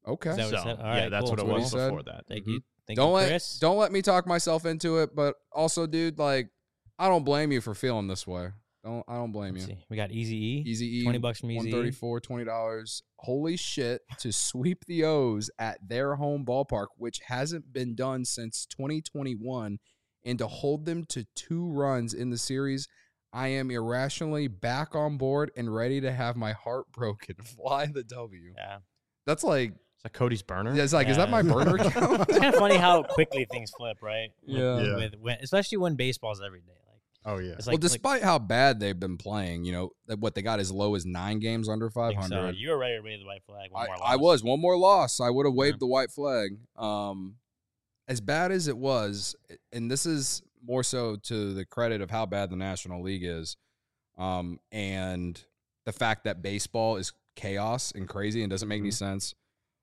Okay. Is that what So it said? All yeah, right, that's cool. what it That's what he was said. before that. Thank Mhm. you. Thank don't you, let Chris. don't let me talk myself into it, but also, dude, like I don't blame you for feeling this way. Don't I don't blame Let's you. see. We got Easy E. Easy E, twenty bucks from one Easy thirty E. four, twenty dollars. Holy shit! To sweep the O's at their home ballpark, which hasn't been done since twenty twenty-one, and to hold them to two runs in the series. I am irrationally back on board and ready to have my heart broken. Fly the W. Yeah. That's like, Is that Cody's burner? yeah, it's like, is that Yeah. my burner account? It's kind of funny how quickly things flip, right? With, Yeah. Yeah. With, when, especially when baseball's every day. Like, Oh yeah. it's Well, like, despite how bad they've been playing, you know, that what they got as low as nine games under like, five I think so. hundred. You were ready to raise the white flag. One I, more I loss. was one more loss. I would have waved Yeah. the white flag. Um, as bad as it was, and this is more so to the credit of how bad the National League is, um, and the fact that baseball is chaos and crazy and doesn't make any Mhm. sense.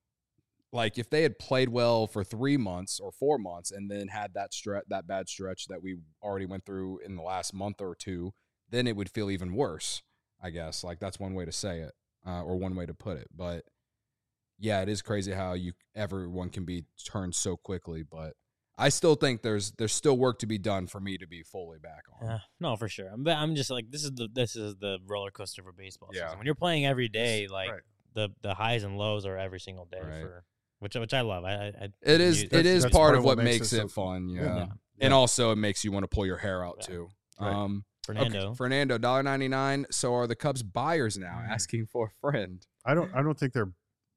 Like if they had played well for three months or four months and then had that stretch, that bad stretch that we already went through in the last month or two, then it would feel even worse. I guess like that's one way to say it, uh, or one way to put it. But yeah, it is crazy how you everyone can be turned so quickly. But I still think there's there's still work to be done for me to be fully back on. Uh, no, for sure. I'm, I'm just like this is the this is the roller coaster for baseball Yeah. season. When you're playing every day, like Right. the the highs and lows are every single day Right. for which which I love. I, I, I It is you- it is that's part of what makes, it it so- fun. Yeah. Yeah. And Yeah. also it makes you want to pull your hair out Yeah. too. Right. Um Fernando. Okay, Fernando, one dollar ninety-nine. So are the Cubs buyers now Mm. asking for a friend? I don't. I don't think they're.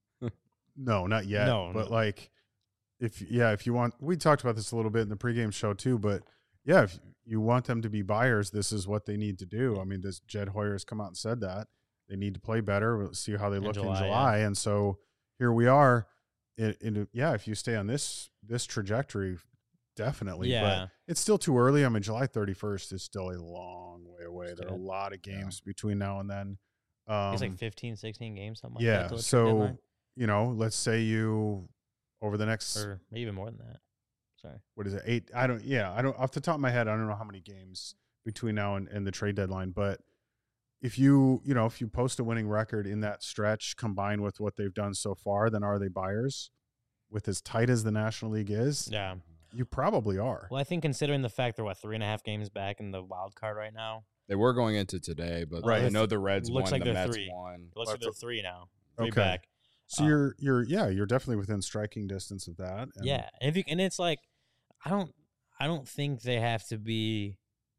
No, not yet. No, but no. like, if yeah, if you want, we talked about this a little bit in the pregame show too. But yeah, if you want them to be buyers, this is what they need to do. I mean, this Jed Hoyer has come out and said that they need to play better. We'll see how they In look July, in yeah. July, and so here we are. In, in yeah, if you stay on this this trajectory, definitely. Yeah. But it's still too early. I mean, July thirty-first is still a long way away. It's There are a good. lot of games between now and then. Um, It's like fifteen, sixteen games, something like yeah. that. till the trade So, deadline. you know, let's say you over the next Or maybe even more than that. Sorry. what is it, eight? I don't yeah, I don't off the top of my head, I don't know how many games between now and, and the trade deadline, but if you, you know, if you post a winning record in that stretch combined with what they've done so far, then are they buyers? With as tight as the National League is, Yeah. you probably are. Well, I think considering the fact they're what three and a half games back in the wild card right now, They were going into today, but Right. I know the Reds Looks won, like the they're Mets three. won. it looks Well, like they're for- three now. Three Okay. back. So Uh, you're you're yeah, you're definitely within striking distance of that. And Yeah, and if you and it's like, I don't, I don't think they have to be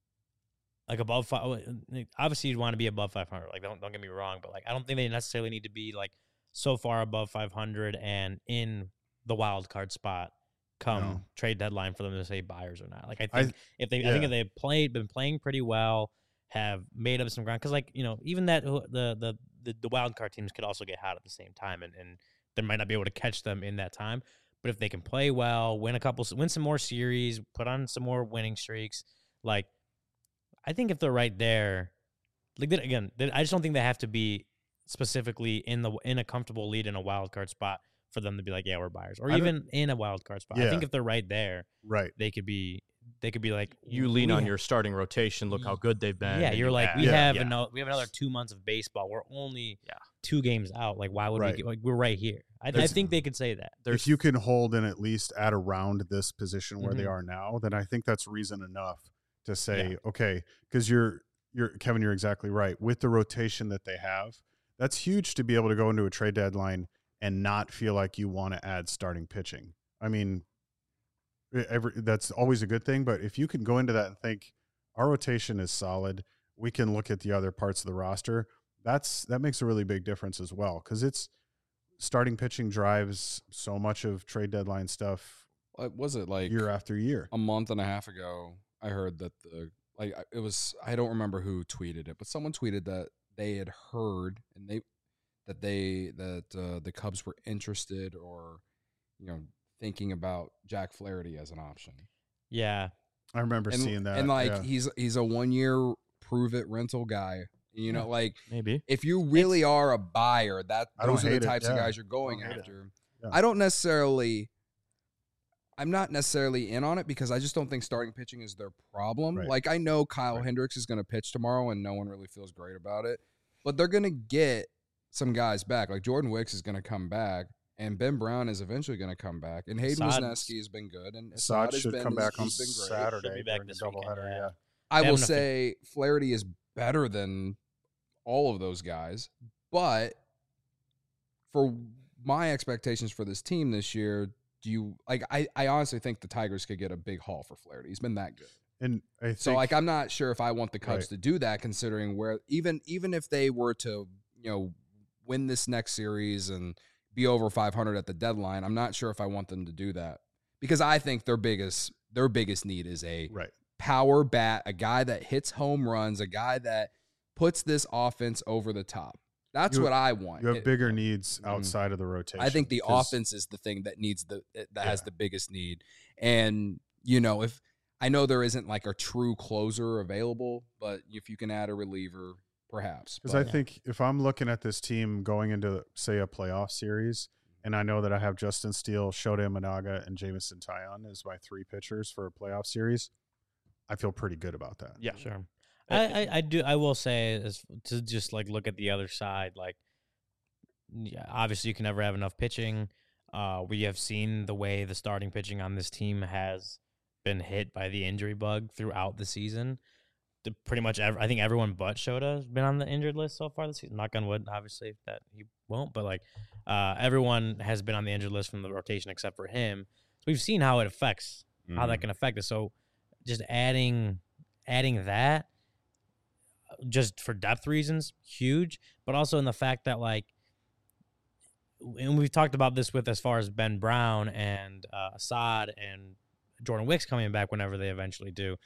like above five. Obviously, you'd want to be above five hundred. Like, don't don't get me wrong, but like, I don't think they necessarily need to be like so far above five hundred and in the wild card spot come No. trade deadline for them to say buyers or not. Like, I I- think if they, I think yeah. if they played, been playing pretty well, have made up some ground, because like you know, even that the the the, the wild card teams could also get hot at the same time, and and they might not be able to catch them in that time. But if they can play well, win a couple, win some more series, put on some more winning streaks, like I think if they're right there, like that, again, they- I just don't think they have to be specifically in the in a comfortable lead in a wild card spot for them to be like, yeah, we're buyers, or I don't- even in a wild card spot. I Yeah. think if they're right there, right. they could be they could be like You lean we on ha- your starting rotation. Look how good they've been. yeah. and You're you like add. we Yeah. have Yeah. another we have another two months of baseball. We're only Yeah. two games out. Like why would Right. we get, like we're right here? I, I There's- think they could say that. There's If you can hold and at least at around this position where they Mhm. are now, then I think that's reason enough to say, Yeah. okay, because you're you're Kevin, you're exactly right. With the rotation that they have, that's huge to be able to go into a trade deadline and not feel like you want to add starting pitching. I mean, e- every that's always a good thing, but if you can go into that and think our rotation is solid, we can look at the other parts of the roster. That's that makes a really big difference as well, because it's starting pitching drives so much of trade deadline stuff What was it like year after year. a month and a half ago? I heard that the like I- it was I don't remember who tweeted it, but someone tweeted that they had heard and they that they that uh, the Cubs were interested or you know thinking about Jack Flaherty as an option. Yeah, I remember And, seeing that. and like yeah. he's he's a one year prove it rental guy. You know, Yeah. like maybe. if you really are a buyer, that I don't those are the hate it, types of yeah. guys you're going don't hate it. after. Yeah. I don't necessarily. I'm not necessarily in on it because I just don't think starting pitching is their problem. Right. Like I know Kyle Right. Hendricks is going to pitch tomorrow, and no one really feels great about it. But they're going to get some guys back. Like Jordan Wicks is going to come back, And Ben Brown is eventually going to come back. And Hayden Assad- Wisniewski has been good. And Assad Assad has should been, come back on he's been great. Saturday Should be back during the this weekend, doubleheader. yeah. Yeah. I They will have enough to- say Flaherty is better than all of those guys. But for my expectations for this team this year, do you like I, I honestly think the Tigers could get a big haul for Flaherty. He's been that good. And I think, So like I'm not sure if I want the Cubs Right. to do that, considering where even even if they were to, you know, win this next series and be over five hundred at the deadline, I'm not sure if I want them to do that. Because I think their biggest their biggest need is a right. power bat, a guy that hits home runs, a guy that puts this offense over the top. That's You- what I want. You have It- bigger needs Mhm. outside of the rotation. I think the 'cause- offense is the thing that needs the that has Yeah. the biggest need. And you know, if I know there isn't like a true closer available, but if you can add a reliever, perhaps. Because I But- think if I'm looking at this team going into, say, a playoff series, and I know that I have Justin Steele, Shota Imanaga, and Jameson Taillon as my three pitchers for a playoff series, I feel pretty good about that. Yeah. Sure. I, I, I do. I will say is to just like look at the other side. Like, yeah, obviously you can never have enough pitching. Uh, we have seen the way the starting pitching on this team has been hit by the injury bug throughout the season. The, pretty much, ev- I think everyone but Shota has been on the injured list so far this season. Knock on wood, obviously that he won't, but like uh, everyone has been on the injured list from the rotation except for him. So we've seen how it affects how that can affect us. So just adding adding that just for depth reasons, huge, but also in the fact that like, and we've talked about this with as far as Ben Brown and uh, Assad and Jordan Wicks coming back whenever they eventually do,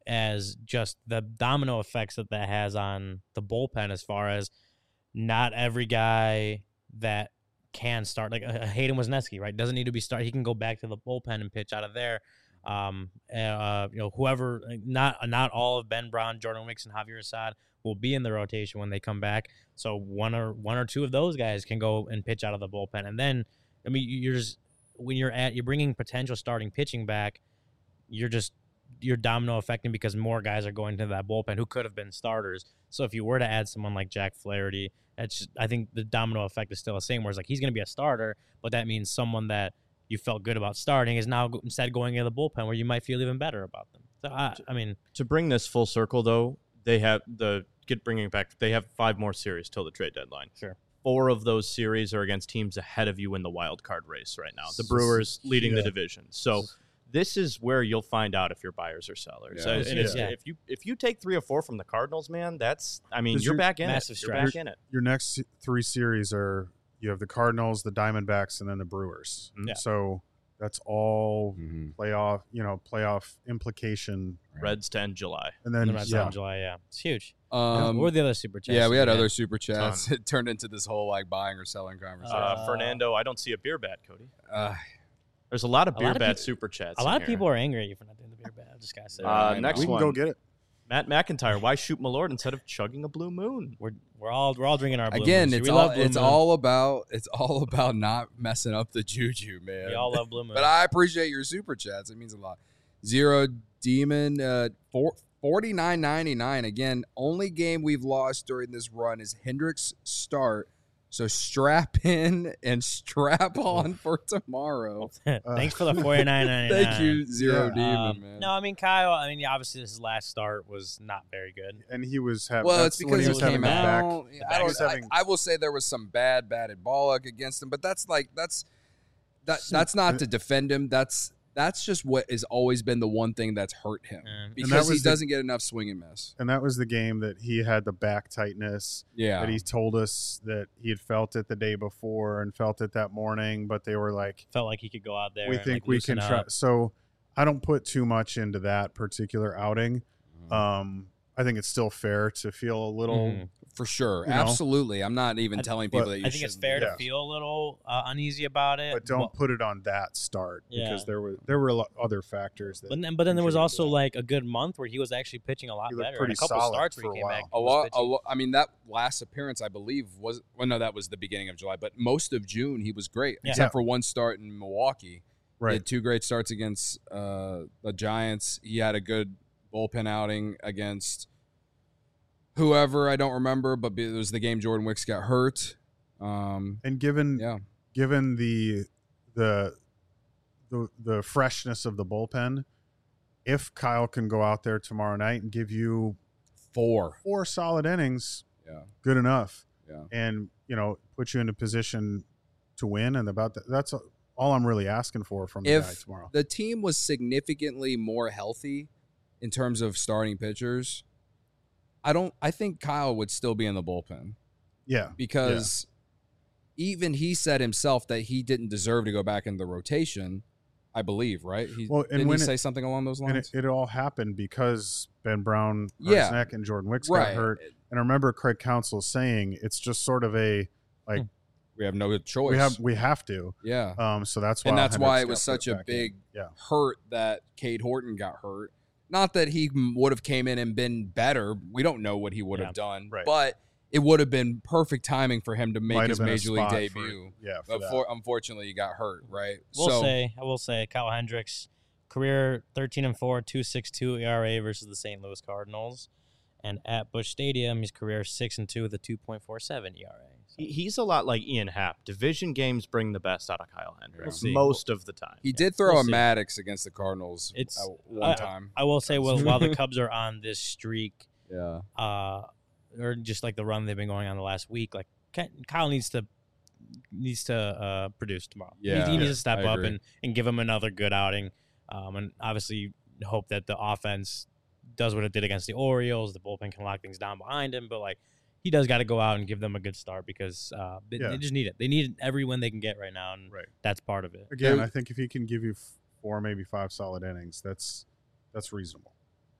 as just the domino effects that that has on the bullpen as far as not every guy that can start, like uh, Hayden Wisniewski, right, doesn't need to be start. He can go back to the bullpen and pitch out of there. Um, uh, you know, whoever, not not all of Ben Brown, Jordan Wicks, and Javier Assad will be in the rotation when they come back. So one or one or two of those guys can go and pitch out of the bullpen, and then I mean, you're just when you're at you're bringing potential starting pitching back, you're just you're domino affecting because more guys are going to that bullpen who could have been starters. So if you were to add someone like Jack Flaherty, that's just, I think the domino effect is still the same. Where it's like he's going to be a starter, but that means someone that you felt good about starting is now go- instead going into the bullpen where you might feel even better about them. So I, I mean, To bring this full circle, though, they have the get bringing it back. They have five more series till the trade deadline. Sure. Four of those series are against teams ahead of you in the wild card race right now. The Brewers leading the Yeah. division. So this is where you'll find out if you're buyers or sellers. Yeah. And it's- Yeah. If you if you take three or four from the Cardinals, man, that's I mean 'Cause you're you're- back in Massive it. You're stretch. back in it. Your next three series are you have the Cardinals, the Diamondbacks, and then the Brewers. Mhm. Yeah. So that's all Mhm. playoff, you know, playoff implication. Reds to end July. And in then the Red Sox yeah, in July, yeah, it's huge. Um, what were the other super chats? yeah, we had that other super chats. Ton. It turned into this whole like buying or selling conversation. Uh, Uh, Fernando, I don't see a beer bat, Cody. Uh, There's a lot of A beer lot of bat peop- super chats. A in lot of here. people are angry at you for not doing the beer bat. I just gotta say, Yeah, Uh, I next we know. can one. go get it. Matt McIntyre, why shoot Malord instead of chugging a blue moon? we're we're all we're all drinking our Blue again, Moons. it's we all love Blue it's Moon. all about it's all about not messing up the juju, man. we all love Blue Moon. But I appreciate your super chats. It means a lot. Zero Demon, uh, four, forty-nine ninety-nine. Again, only game we've lost during this run is Hendricks' start. So strap in and strap on for tomorrow. Thanks for the forty nine ninety nine. Thank you, Zero Yeah. Demon, Um, man. no, I mean Kyle. I mean, yeah, obviously his last start was not very good. And he was having. Well, that's it's when because he he was having came the back. out. the I, back don't, was I, having- I will say there was some bad batted ball luck against him, but that's like that's that that's not to defend him. That's that's just what has always been the one thing that's hurt him Um, because he was the- doesn't get enough swing and miss. And that was the game that he had the back tightness Yeah, that he told us that he had felt it the day before and felt it that morning, but they were like, felt like he could go out there. we and, think like, we loosen can try. up. So I don't put too much into that particular outing. Mm-hmm. Um, I think it's still fair to feel a little. Mhm. for sure, you know. absolutely. I'm not even I- telling people but that you I think it's shouldn't fair do yeah. to feel a little uh, uneasy about it, But don't put it on that start Yeah. because there were there were a lot other factors that. But then, but then there was contributed to also that. like a good month where he was actually pitching a lot He looked better. And pretty a couple solid starts where for he a came back. while. A and was lot, a pitching. lot. I mean, that last appearance, I believe, was well, no, that was the beginning of July, but most of June he was great, Yeah. except Yeah. for one start in Milwaukee. He right. had two great starts against uh, the Giants. He had a good bullpen outing against whoever I don't remember, but it was the game Jordan Wicks got hurt. Um, And given yeah, given the the the the freshness of the bullpen, if Kyle can go out there tomorrow night and give you Four. four solid innings, Yeah. good enough, Yeah. and you know put you in a position to win. And about that, that's all I'm really asking for from the guy If tomorrow. the team was significantly more healthy in terms of starting pitchers, I don't. I think Kyle would still be in the bullpen Yeah, because even he said himself that he didn't deserve to go back in the rotation. I believe, right? He, Well, and didn't he when it- say something along those and lines? it, it all happened because Ben Brown hurt Yeah. his neck and Jordan Wicks right. got hurt. And I remember Craig Counsell saying it's just sort of a like We have no choice. we have we have to. yeah. Um, so that's why And that's why Hendricks it was got put such a back in. big Yeah. hurt that Cade Horton got hurt. Not that he would have came in and been better. We don't know what he would have Yeah. done, Right. but it would have been perfect timing for him to make Might his have been a major league spot for- debut. yeah, for But that. for, unfortunately, he got hurt, right? We'll so, say, I will say, Kyle Hendricks, career thirteen and four, two six two E R A versus the Saint Louis Cardinals, and at Busch Stadium, his career six and two with a two point four seven E R A. So, He- He's a lot like Ian Happ. Division games bring the best out of Kyle Hendricks see. most of the time. he did throw we'll a see. Maddox against the Cardinals It's- at one I- time. I will say, well, while the Cubs are on this streak, Yeah. uh, or just like the run they've been going on the last week, like Ky- Kyle needs to needs to uh, produce tomorrow. He- Yeah, he, needs to step I up agree. and, and give him another good outing, um, and obviously hope that the offense does what it did against the Orioles. The bullpen can lock things down behind him, but like he does got to go out and give them a good start because uh, they, Yeah. they just need it. They need every win they can get right now, and Right. that's part of it. Again, There- I think if he can give you f- four, maybe five solid innings, that's that's reasonable.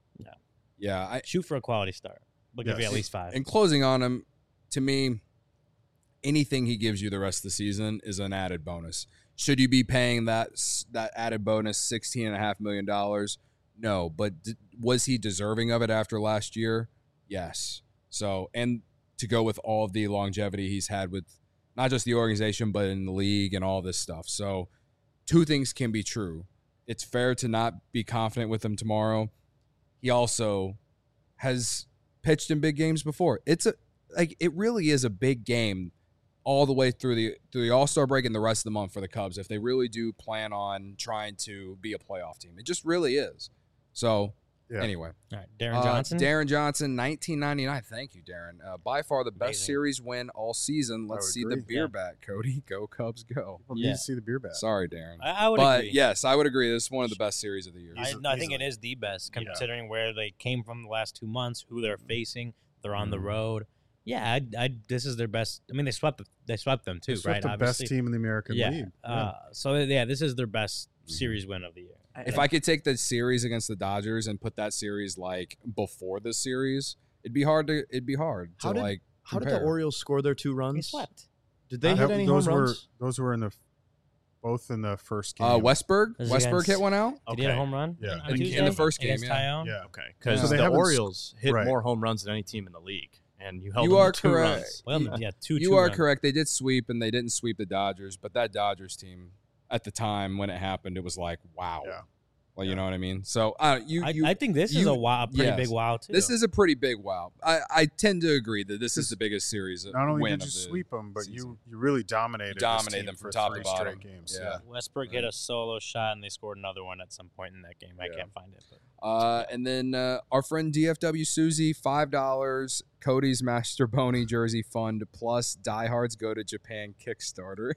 Yeah. I, Shoot for a quality start. We'll give you Yes. at least five. and closing on him, to me, anything he gives you the rest of the season is an added bonus. Should you be paying that s- that added bonus sixteen and a half million dollars? No, but d- was he deserving of it after last year? Yes. So, and to go with all of the longevity he's had with not just the organization but in the league and all this stuff. So, two things can be true. It's fair to not be confident with him tomorrow. He also has pitched in big games before. It's a like it really is a big game all the way through the through the All-Star break and the rest of the month for the Cubs if they really do plan on trying to be a playoff team. It just really is. So, Yeah. anyway. All right, Darren Uh, Johnson. Darren Johnson, nineteen ninety-nine. Thank you, Darren. Uh, by far the best Amazing. series win all season. Let's would see the agree. beer Yeah. back, Cody. Go Cubs, go. People Yeah. need to see the beer bat. Sorry, Darren. I, I would But agree. yes, I would agree. This is one of the best series of the year. I, Easily- no, I think it easily. is the best Yeah. considering where they came from the last two months, who they're facing. They're on the Mhm. road. Yeah, I, I, this is their best. I mean, they swept. They swept them too, They swept right? the best Obviously. team in the American Yeah. League. Uh, so yeah, this is their best Mhm. series win of the year. If I could take the series against the Dodgers and put that series like before the series, it'd be hard to it'd be hard to How did- like How did the compare. Orioles score their two They runs? swept. Did they That- hit any home those were runs? those were in the both in the first game. Uh, Westberg, This is Westberg against- hit one out. Did he hit a home run? Yeah. on In- in the Tuesday first game, against yeah. Tyone? yeah. Okay, because So they the haven't s- Orioles hit right. more home runs than any team in the league, and you held You them to are two correct. runs. Well, You- yeah, two. You two are runs. correct. They did sweep, and they didn't sweep the Dodgers. But that Dodgers team, at the time when it happened, it was like, wow. Yeah. Well, you Yeah. know what I mean. So, uh, you, I, you I think this is you- a wow, a pretty yes. big wow too. this is a pretty big wow. I, I tend to agree that this is This- the biggest series. Not only win did you of the sweep them, but season. you you really dominated. this dominated team them from for top to three bottom. straight games. Yeah. Westbrook hit a solo shot and they scored another one at some point in that game. I Yeah. can't find it. But. Uh, and then uh, our friend D F W Susie, five dollars. Cody's Master Boney jersey fund plus diehards go to Japan Kickstarter.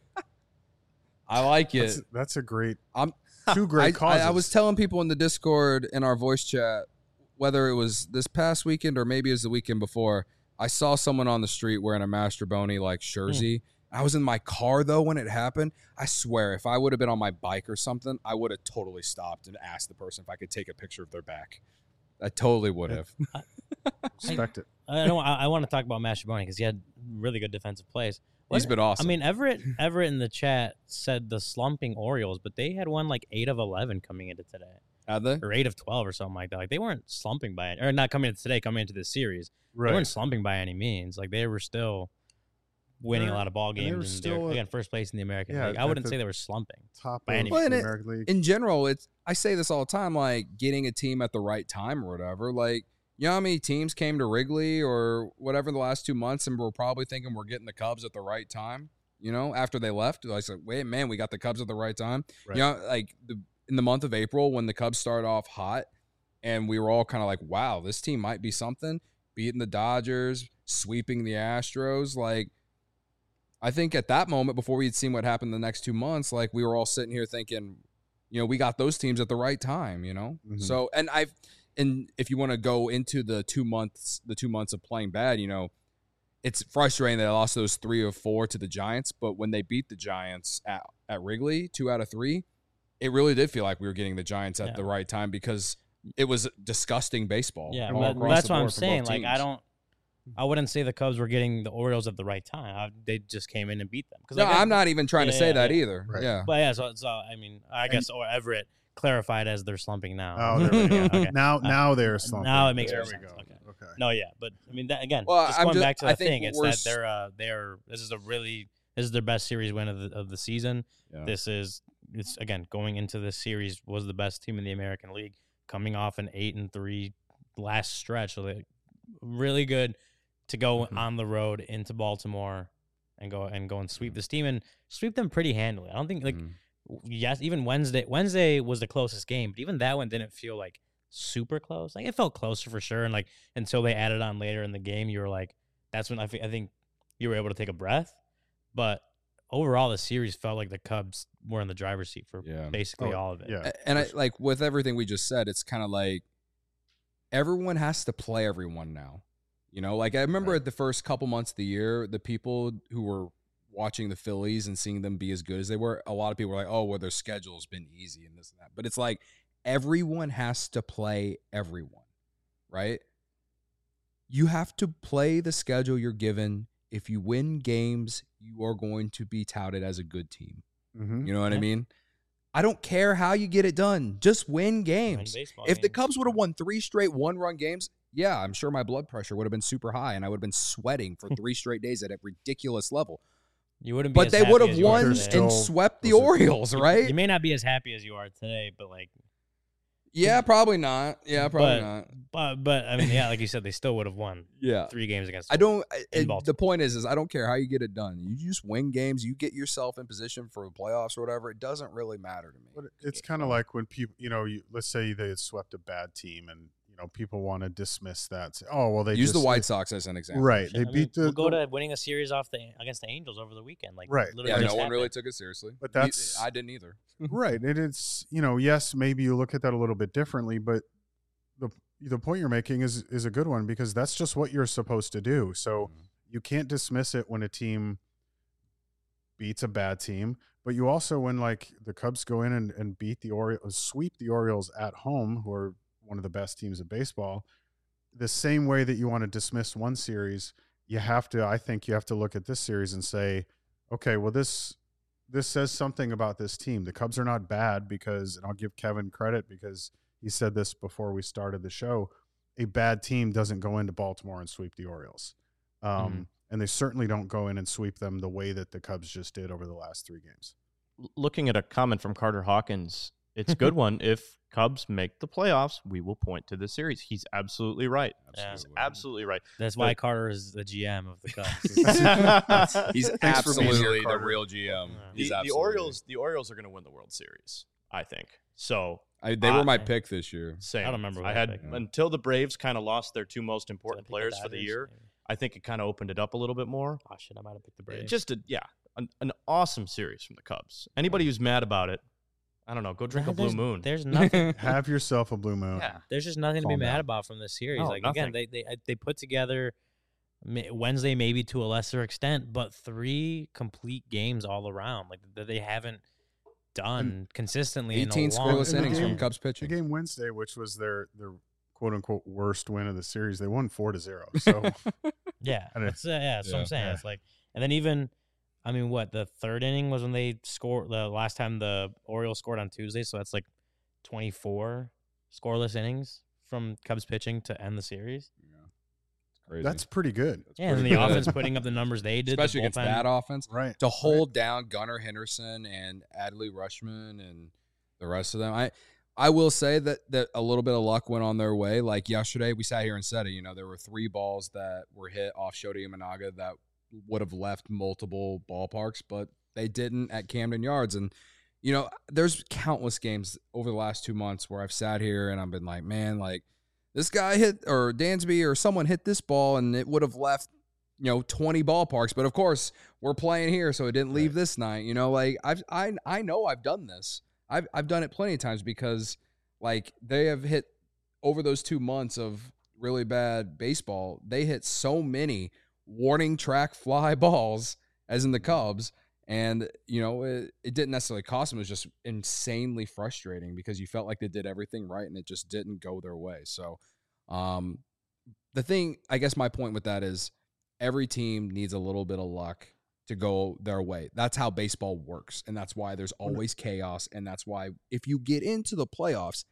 I like it. That's, that's a great. I'm- two great I, causes. I, I was telling people in the Discord in our voice chat, whether it was this past weekend or maybe it was the weekend before, I saw someone on the street wearing a Master Boney like jersey. I was in my car though when it happened. I swear, if I would have been on my bike or something, I would have totally stopped and asked the person if I could take a picture of their back. I totally would have. respect it. I don't. I, I want to talk about Mastrobuoni because he had really good defensive plays. He's What- been awesome. I mean, Everett Everett in the chat said the slumping Orioles, but they had won like eight of eleven coming into today, Had they? or eight of twelve, or something like that. Like they weren't slumping by it, or not coming into today, coming into this series. They Right. weren't slumping by any means. Like they were still winning a They're- lot of ball and they games. were And still, they're uh, again first place in the American yeah, League. I at wouldn't the say they were slumping. Top by of any the means. Well, and it- American League. In general, it's I say this all the time, like getting a team at the right time or whatever. Like, you know how many teams came to Wrigley or whatever the last two months and we're probably thinking we're getting the Cubs at the right time? You know, after they left, I was like, wait, man, we got the Cubs at the right time. Right. You know, like the, in the month of April when the Cubs started off hot, and we were all kind of like, wow, this team might be something. Beating the Dodgers, sweeping the Astros, like. I think at that moment, before we had seen what happened the next two months, like we were all sitting here thinking, you know, we got those teams at the right time, you know. Mhm. So, and I've, and if you want to go into the two months, the two months of playing bad, you know, it's frustrating that I lost those three or four to the Giants, but when they beat the Giants at at Wrigley, two out of three, it really did feel like we were getting the Giants at Yeah. the right time because it was disgusting baseball. Yeah, all but across that's the what I'm board for both saying. Like, I teams. don't, I wouldn't say the Cubs were getting the Orioles at the right time. I, they just came in and beat them. No, like, I- I'm not even trying to Yeah, say yeah, that yeah. either. Right. Yeah. But yeah, so, so I mean, I guess or Everett clarified as they're slumping now. Oh, there we go. Yeah, okay. Now, Uh, now they're slumping. now it makes there more we sense. go. Okay. Okay. No, yeah, but I mean, that, again, Well, just I'm going just- back to I the think thing, it's we're that s- they're uh, they're this is a really this is their best series win of the of the season. Yeah. This is it's again going into this series was the best team in the American League, coming off an eight and three last stretch, so they really good to go Mhm. on the road into Baltimore and go and go and sweep this team and sweep them pretty handily. I don't think like. Mhm. Yes, even Wednesday. Wednesday was the closest game, but even that one didn't feel like super close. Like it felt closer for sure, and like until they added on later in the game, you were like, that's when I, thi- I think you were able to take a breath. But overall, the series felt like the Cubs were in the driver's seat for Yeah. basically Oh, all of it. Yeah. A- And I like with everything we just said, it's kind of like everyone has to play everyone now. You know, like I remember Right. at the first couple months of the year, the people who were watching the Phillies and seeing them be as good as they were, a lot of people were like, oh, well, their schedule's been easy and this and that. But it's like everyone has to play everyone, right? You have to play the schedule you're given. If you win games, you are going to be touted as a good team. Mm-hmm. You know what I Yeah. mean? I don't care how you get it done. Just win Win games. baseball If the games. Cubs would have won three straight one-run games, yeah, I'm sure my blood pressure would have been super high and I would have been sweating for three straight days at a ridiculous level. you wouldn't be But as they happy would as have you are won They're today. still- and swept the those are- Orioles, right? You may not be as happy as you are today, but like, Yeah, probably not. Yeah, probably But- not. but but I mean, yeah, like you said, they still would have won Yeah. three games against. I don't. I- in it- Baltimore. the point is, is I don't care how you get it done. You just win games. You get yourself in position for the playoffs or whatever. It doesn't really matter to me. But it's kind of like when people, you know, you, let's say they had swept a bad team, and you know, people want to dismiss that. Say, oh, well, they Use just, the White Sox as an example. right? Shit, They I mean, beat the. We'll go the- to winning a series off the against the Angels over the weekend. Like Right. literally Yeah, just no one happened. really took it seriously. But You- that's- I didn't either. right, and it's you know, yes, maybe you look at that a little bit differently, but the the point you're making is is a good one because that's just what you're supposed to do. So Mhm. you can't dismiss it when a team beats a bad team, but you also when like the Cubs go in and, and beat the Orioles, sweep the Orioles at home, who are one of the best teams in baseball, the same way that you want to dismiss one series, you have to, I think you have to look at this series and say, okay, well, this this says something about this team. The Cubs are not bad because, and I'll give Kevin credit because he said this before we started the show, a bad team doesn't go into Baltimore and sweep the Orioles. Um, Mhm. And they certainly don't go in and sweep them the way that the Cubs just did over the last three games. L- Looking at a comment from Carter Hawkins, it's a good one. If Cubs make the playoffs, we will point to this series. He's absolutely right. Yeah. He's absolutely right. That's why Carter is the G M of the Cubs. He's Thanks for being here, absolutely the Carter. real G M. Yeah. He's the, the absolutely- Orioles, the Orioles are going to win the World Series, I think. So I, they were my I- pick this year. same. I don't remember who I I had picked. until the Braves kind of lost their two most Did I important pick the players for the Dodgers? year. Maybe. I think it kind of opened it up a little bit more. Oh shit, I might have picked the Braves. Just a yeah, an, an awesome series from the Cubs. Anybody who's mad about it, I don't know, go drink a Blue There's- Moon. There's nothing. Have yourself a blue moon. Yeah. There's just nothing to be Calm mad down. about from this series. No, like nothing. again, they they uh, they put together ma- Wednesday maybe to a lesser extent, but three complete games all around, like that they haven't done consistently. eighteen in a long scoreless in the innings game- from Cubs The pitching. game Wednesday, which was their their quote unquote worst win of the series, they won four to zero. So Yeah, I don't- that's, uh, yeah, that's what Yeah. I'm saying. Yeah. It's like, and then even, I mean, what the third inning was when they scored the last time the Orioles scored on Tuesday, so that's like twenty-four scoreless innings from Cubs pitching to end the series. Yeah. It's crazy. that's pretty good. That's Yeah, and pretty the good. offense putting up the numbers they did, the especially against bullpen- that offense. Right. To hold down Gunnar Henderson and Adley Rushman and the rest of them. I I will say that that a little bit of luck went on their way. Like yesterday, we sat here and said it. You know, there were three balls that were hit off Shota Imanaga that would have left multiple ballparks, but they didn't at Camden Yards. And, you know, there's countless games over the last two months where I've sat here and I've been like, man, like this guy hit or Dansby or someone hit this ball and it would have left, you know, twenty ballparks. But of course, we're playing here, so it didn't leave right. this night. You know, like I've I I know I've done this. I've I've done it plenty of times because like they have hit over those two months of really bad baseball, they hit so many warning track fly balls as in the Cubs. And, you know, it, it didn't necessarily cost them. It was just insanely frustrating because you felt like they did everything right and it just didn't go their way. So um, the thing, I guess my point with that is every team needs a little bit of luck to go their way. That's how baseball works. And that's why there's always chaos. And that's why if you get into the playoffs,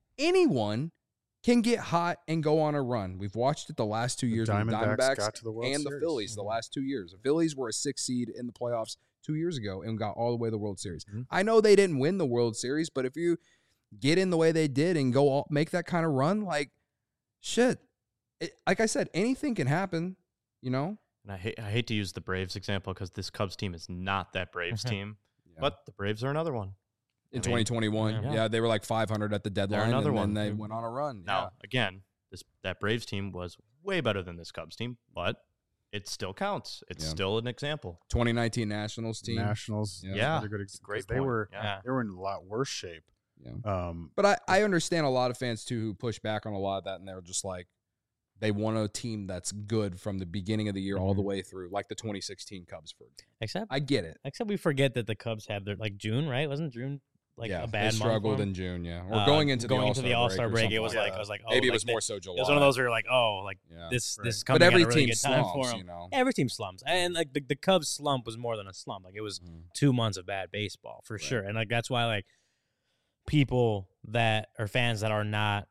anyone can get hot and go on a run. We've watched it the last two years. The with the Diamondbacks Diamondbacks got to the World and Series. the Phillies the last two years. The Phillies were a six seed in the playoffs two years ago and got all the way to the World Series. Mm-hmm. I know they didn't win the World Series, but if you get in the way they did and go all, make that kind of run, like, shit. It, like I said, anything can happen, you know? And I hate, I hate to use the Braves example because this Cubs team is not that Braves team, yeah. but the Braves are another one. In I twenty twenty-one, mean, yeah. yeah, they were like five hundred at the deadline, another and one. then they went on a run. Now, yeah. again, this that Braves team was way better than this Cubs team, but it still counts. It's yeah. still an example. twenty nineteen Nationals team. Nationals. Yeah. yeah. Good ex- Great they point. were yeah. they were in a lot worse shape. Yeah. Um, but I, I understand a lot of fans, too, who push back on a lot of that, and they're just like, they want a team that's good from the beginning of the year mm-hmm. all the way through, like the twenty sixteen Cubs, for example. Except, I get it. Except we forget that the Cubs had their, like, June, right? Wasn't June like yeah, a bad they month struggled in June, yeah. Or uh, going into going the into the All-Star break, break it was like, like, I was like, oh. Maybe like it was they, more so July. It was one of those where you're like, oh, like, yeah. this right. this is coming but every at a really team good slumps, time for them. You know? Every team slumps. And, like, the, the Cubs slump was more than a slump. Like, it was mm. two months of bad baseball, for right. sure. And, like, that's why, like, people that are fans that are not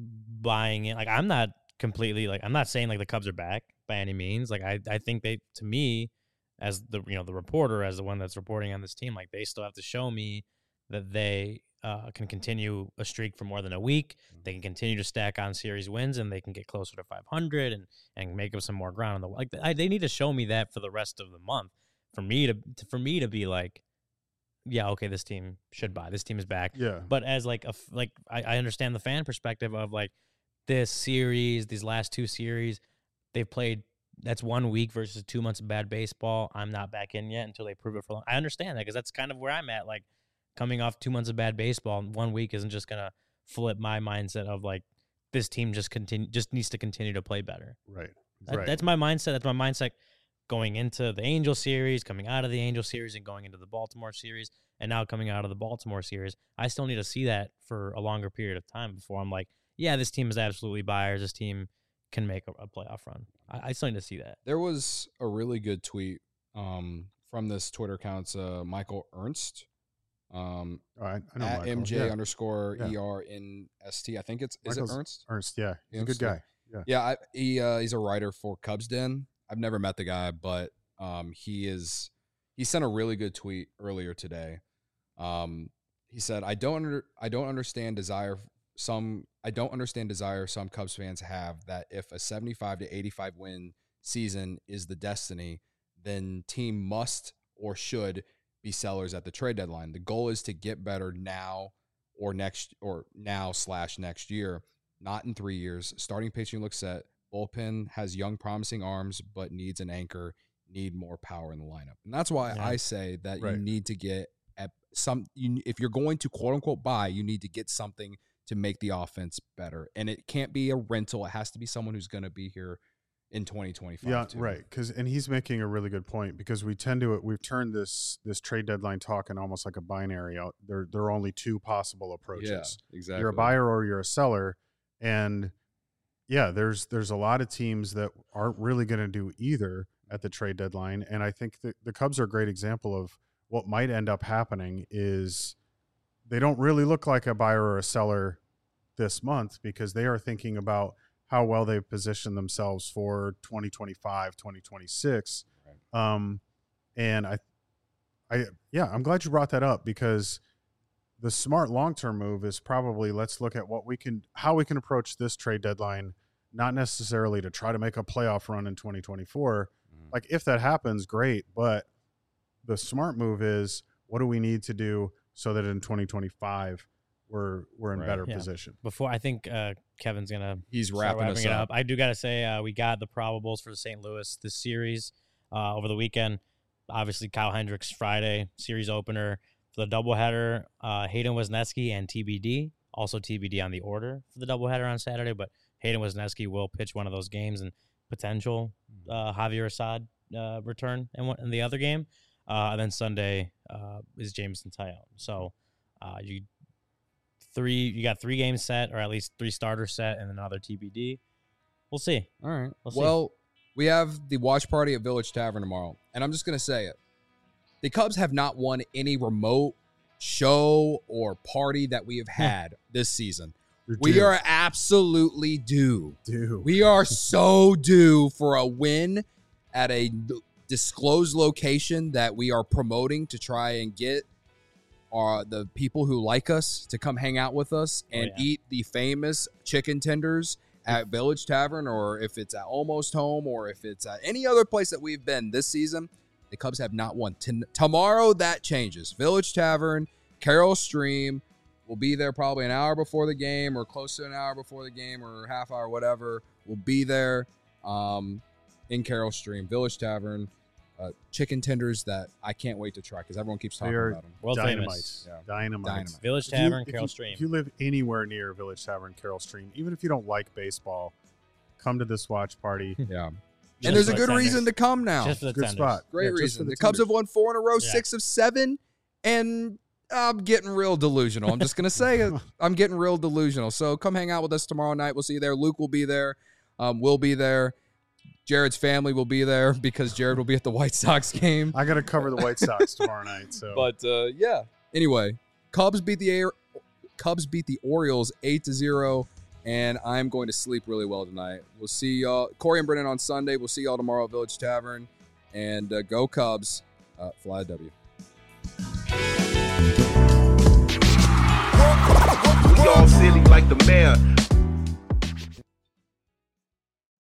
buying it, like, I'm not completely, like, I'm not saying, like, the Cubs are back by any means. Like, I, I think they, to me, as the, you know, the reporter, as the one that's reporting on this team, like, they still have to show me that they uh, can continue a streak for more than a week. They can continue to stack on series wins, and they can get closer to five hundred and, and make up some more ground on the, like, I, they need to show me that for the rest of the month for me to, to for me to be like, yeah, okay, this team should buy. This team is back. Yeah. But as like a like I, I understand the fan perspective of like this series, these last two series, they've played. That's one week versus two months of bad baseball. I'm not back in yet until they prove it for long. I understand that because that's kind of where I'm at. Like coming off two months of bad baseball, one week isn't just gonna flip my mindset of like this team just continue just needs to continue to play better. Right. That, right. That's my mindset. That's my mindset. Going into the Angel series, coming out of the Angel series, and going into the Baltimore series, and now coming out of the Baltimore series, I still need to see that for a longer period of time before I'm like, yeah, this team is absolutely buyers. This team can make a, a playoff run. I, I still need to see that. There was a really good tweet um, from this Twitter account, uh, Michael Ernst, um, oh, I, I know at Michael. M J yeah. underscore yeah. E R N S T. I think it's is Michael's it Ernst? Ernst, yeah, he's Ernst, a good guy. Yeah, yeah. I, he uh, he's a writer for Cubs Den. I've never met the guy, but um, he is. He sent a really good tweet earlier today. Um, he said, "I don't under, I don't understand desire some I don't understand desire some Cubs fans have that if a seventy-five to eighty-five win season is the destiny, then team must or should be sellers at the trade deadline. The goal is to get better now or next or now slash next year, not in three years. Starting pitching looks set. Bullpen has young, promising arms, but needs an anchor, need more power in the lineup." And that's why yeah. I say that right. you need to get at some, you, if you're going to quote unquote buy, you need to get something to make the offense better. And it can't be a rental. It has to be someone who's going to be here in twenty twenty-five. Yeah, too. right. Because and he's making a really good point because we tend to we've turned this this trade deadline talk in almost like a binary. Out there, there are only two possible approaches. Yeah, exactly. You're a buyer or you're a seller, and yeah, there's there's a lot of teams that aren't really going to do either at the trade deadline. And I think that the Cubs are a great example of what might end up happening is they don't really look like a buyer or a seller this month because they are thinking about how well they've positioned themselves for twenty twenty-five, twenty twenty-six. Right. Um, and I, I, yeah, I'm glad you brought that up because the smart long-term move is probably let's look at what we can, how we can approach this trade deadline, not necessarily to try to make a playoff run in twenty twenty-four, mm. Like if that happens, great. But the smart move is, what do we need to do so that in twenty twenty-five we're we're in Right. better Yeah. position? Before I think uh, Kevin's gonna He's start wrapping, wrapping us it up. up. I do gotta say uh, we got the probables for the Saint Louis this series uh, over the weekend. Obviously, Kyle Hendricks Friday series opener for the doubleheader. Uh, Hayden Wesneski and T B D, also T B D on the order for the doubleheader on Saturday. But Hayden Wesneski will pitch one of those games and potential uh, Javier Assad uh, return in, one, in the other game. Uh, and then Sunday uh, is Jameson Tyone. So uh, you three you got three games set, or at least three starters set, and another T B D. We'll see. All right. We'll see. Well, we have the watch party at Village Tavern tomorrow, and I'm just going to say it. The Cubs have not won any remote show or party that we have had this season. You're We due. are absolutely due. due. We are so due for a win at a disclosed location that we are promoting to try and get uh, the people who like us to come hang out with us and Oh, yeah. eat the famous chicken tenders at Village Tavern, or if it's at Almost Home, or if it's at any other place that we've been this season. The Cubs have not won. T- tomorrow, that changes. Village Tavern, Carroll Stream. We'll be there probably an hour before the game, or close to an hour before the game, or half hour, whatever. We'll be there um, in Carroll Stream, Village Tavern. Uh, chicken tenders that I can't wait to try because everyone keeps talking They are about them. World Dynamite. famous. Yeah. Dynamite. Dynamite. Village If you- Tavern, if Carroll you- Stream. If you live anywhere near Village Tavern, Carroll Stream, even if you don't like baseball, come to this watch party. Yeah. Just And there's a for good the reason to come now. Just for the Good tenders. spot. Great Yeah, just reason. for The, the Cubs have tenders. won four in a row, Yeah. six of seven, and I'm getting real delusional. I'm just going to say it. I'm getting real delusional. So come hang out with us tomorrow night. We'll see you there. Luke will be there. Um, we'll be there. Jared's family will be there because Jared will be at the White Sox game. I got to cover the White Sox tomorrow night. So, But uh, yeah. Anyway, Cubs beat the Air. Cubs beat the Orioles eight to zero, and I'm going to sleep really well tonight. We'll see y'all, Corey and Brennan on Sunday. We'll see y'all tomorrow at Village Tavern, and uh, go Cubs, uh, fly W. We all silly like the mayor.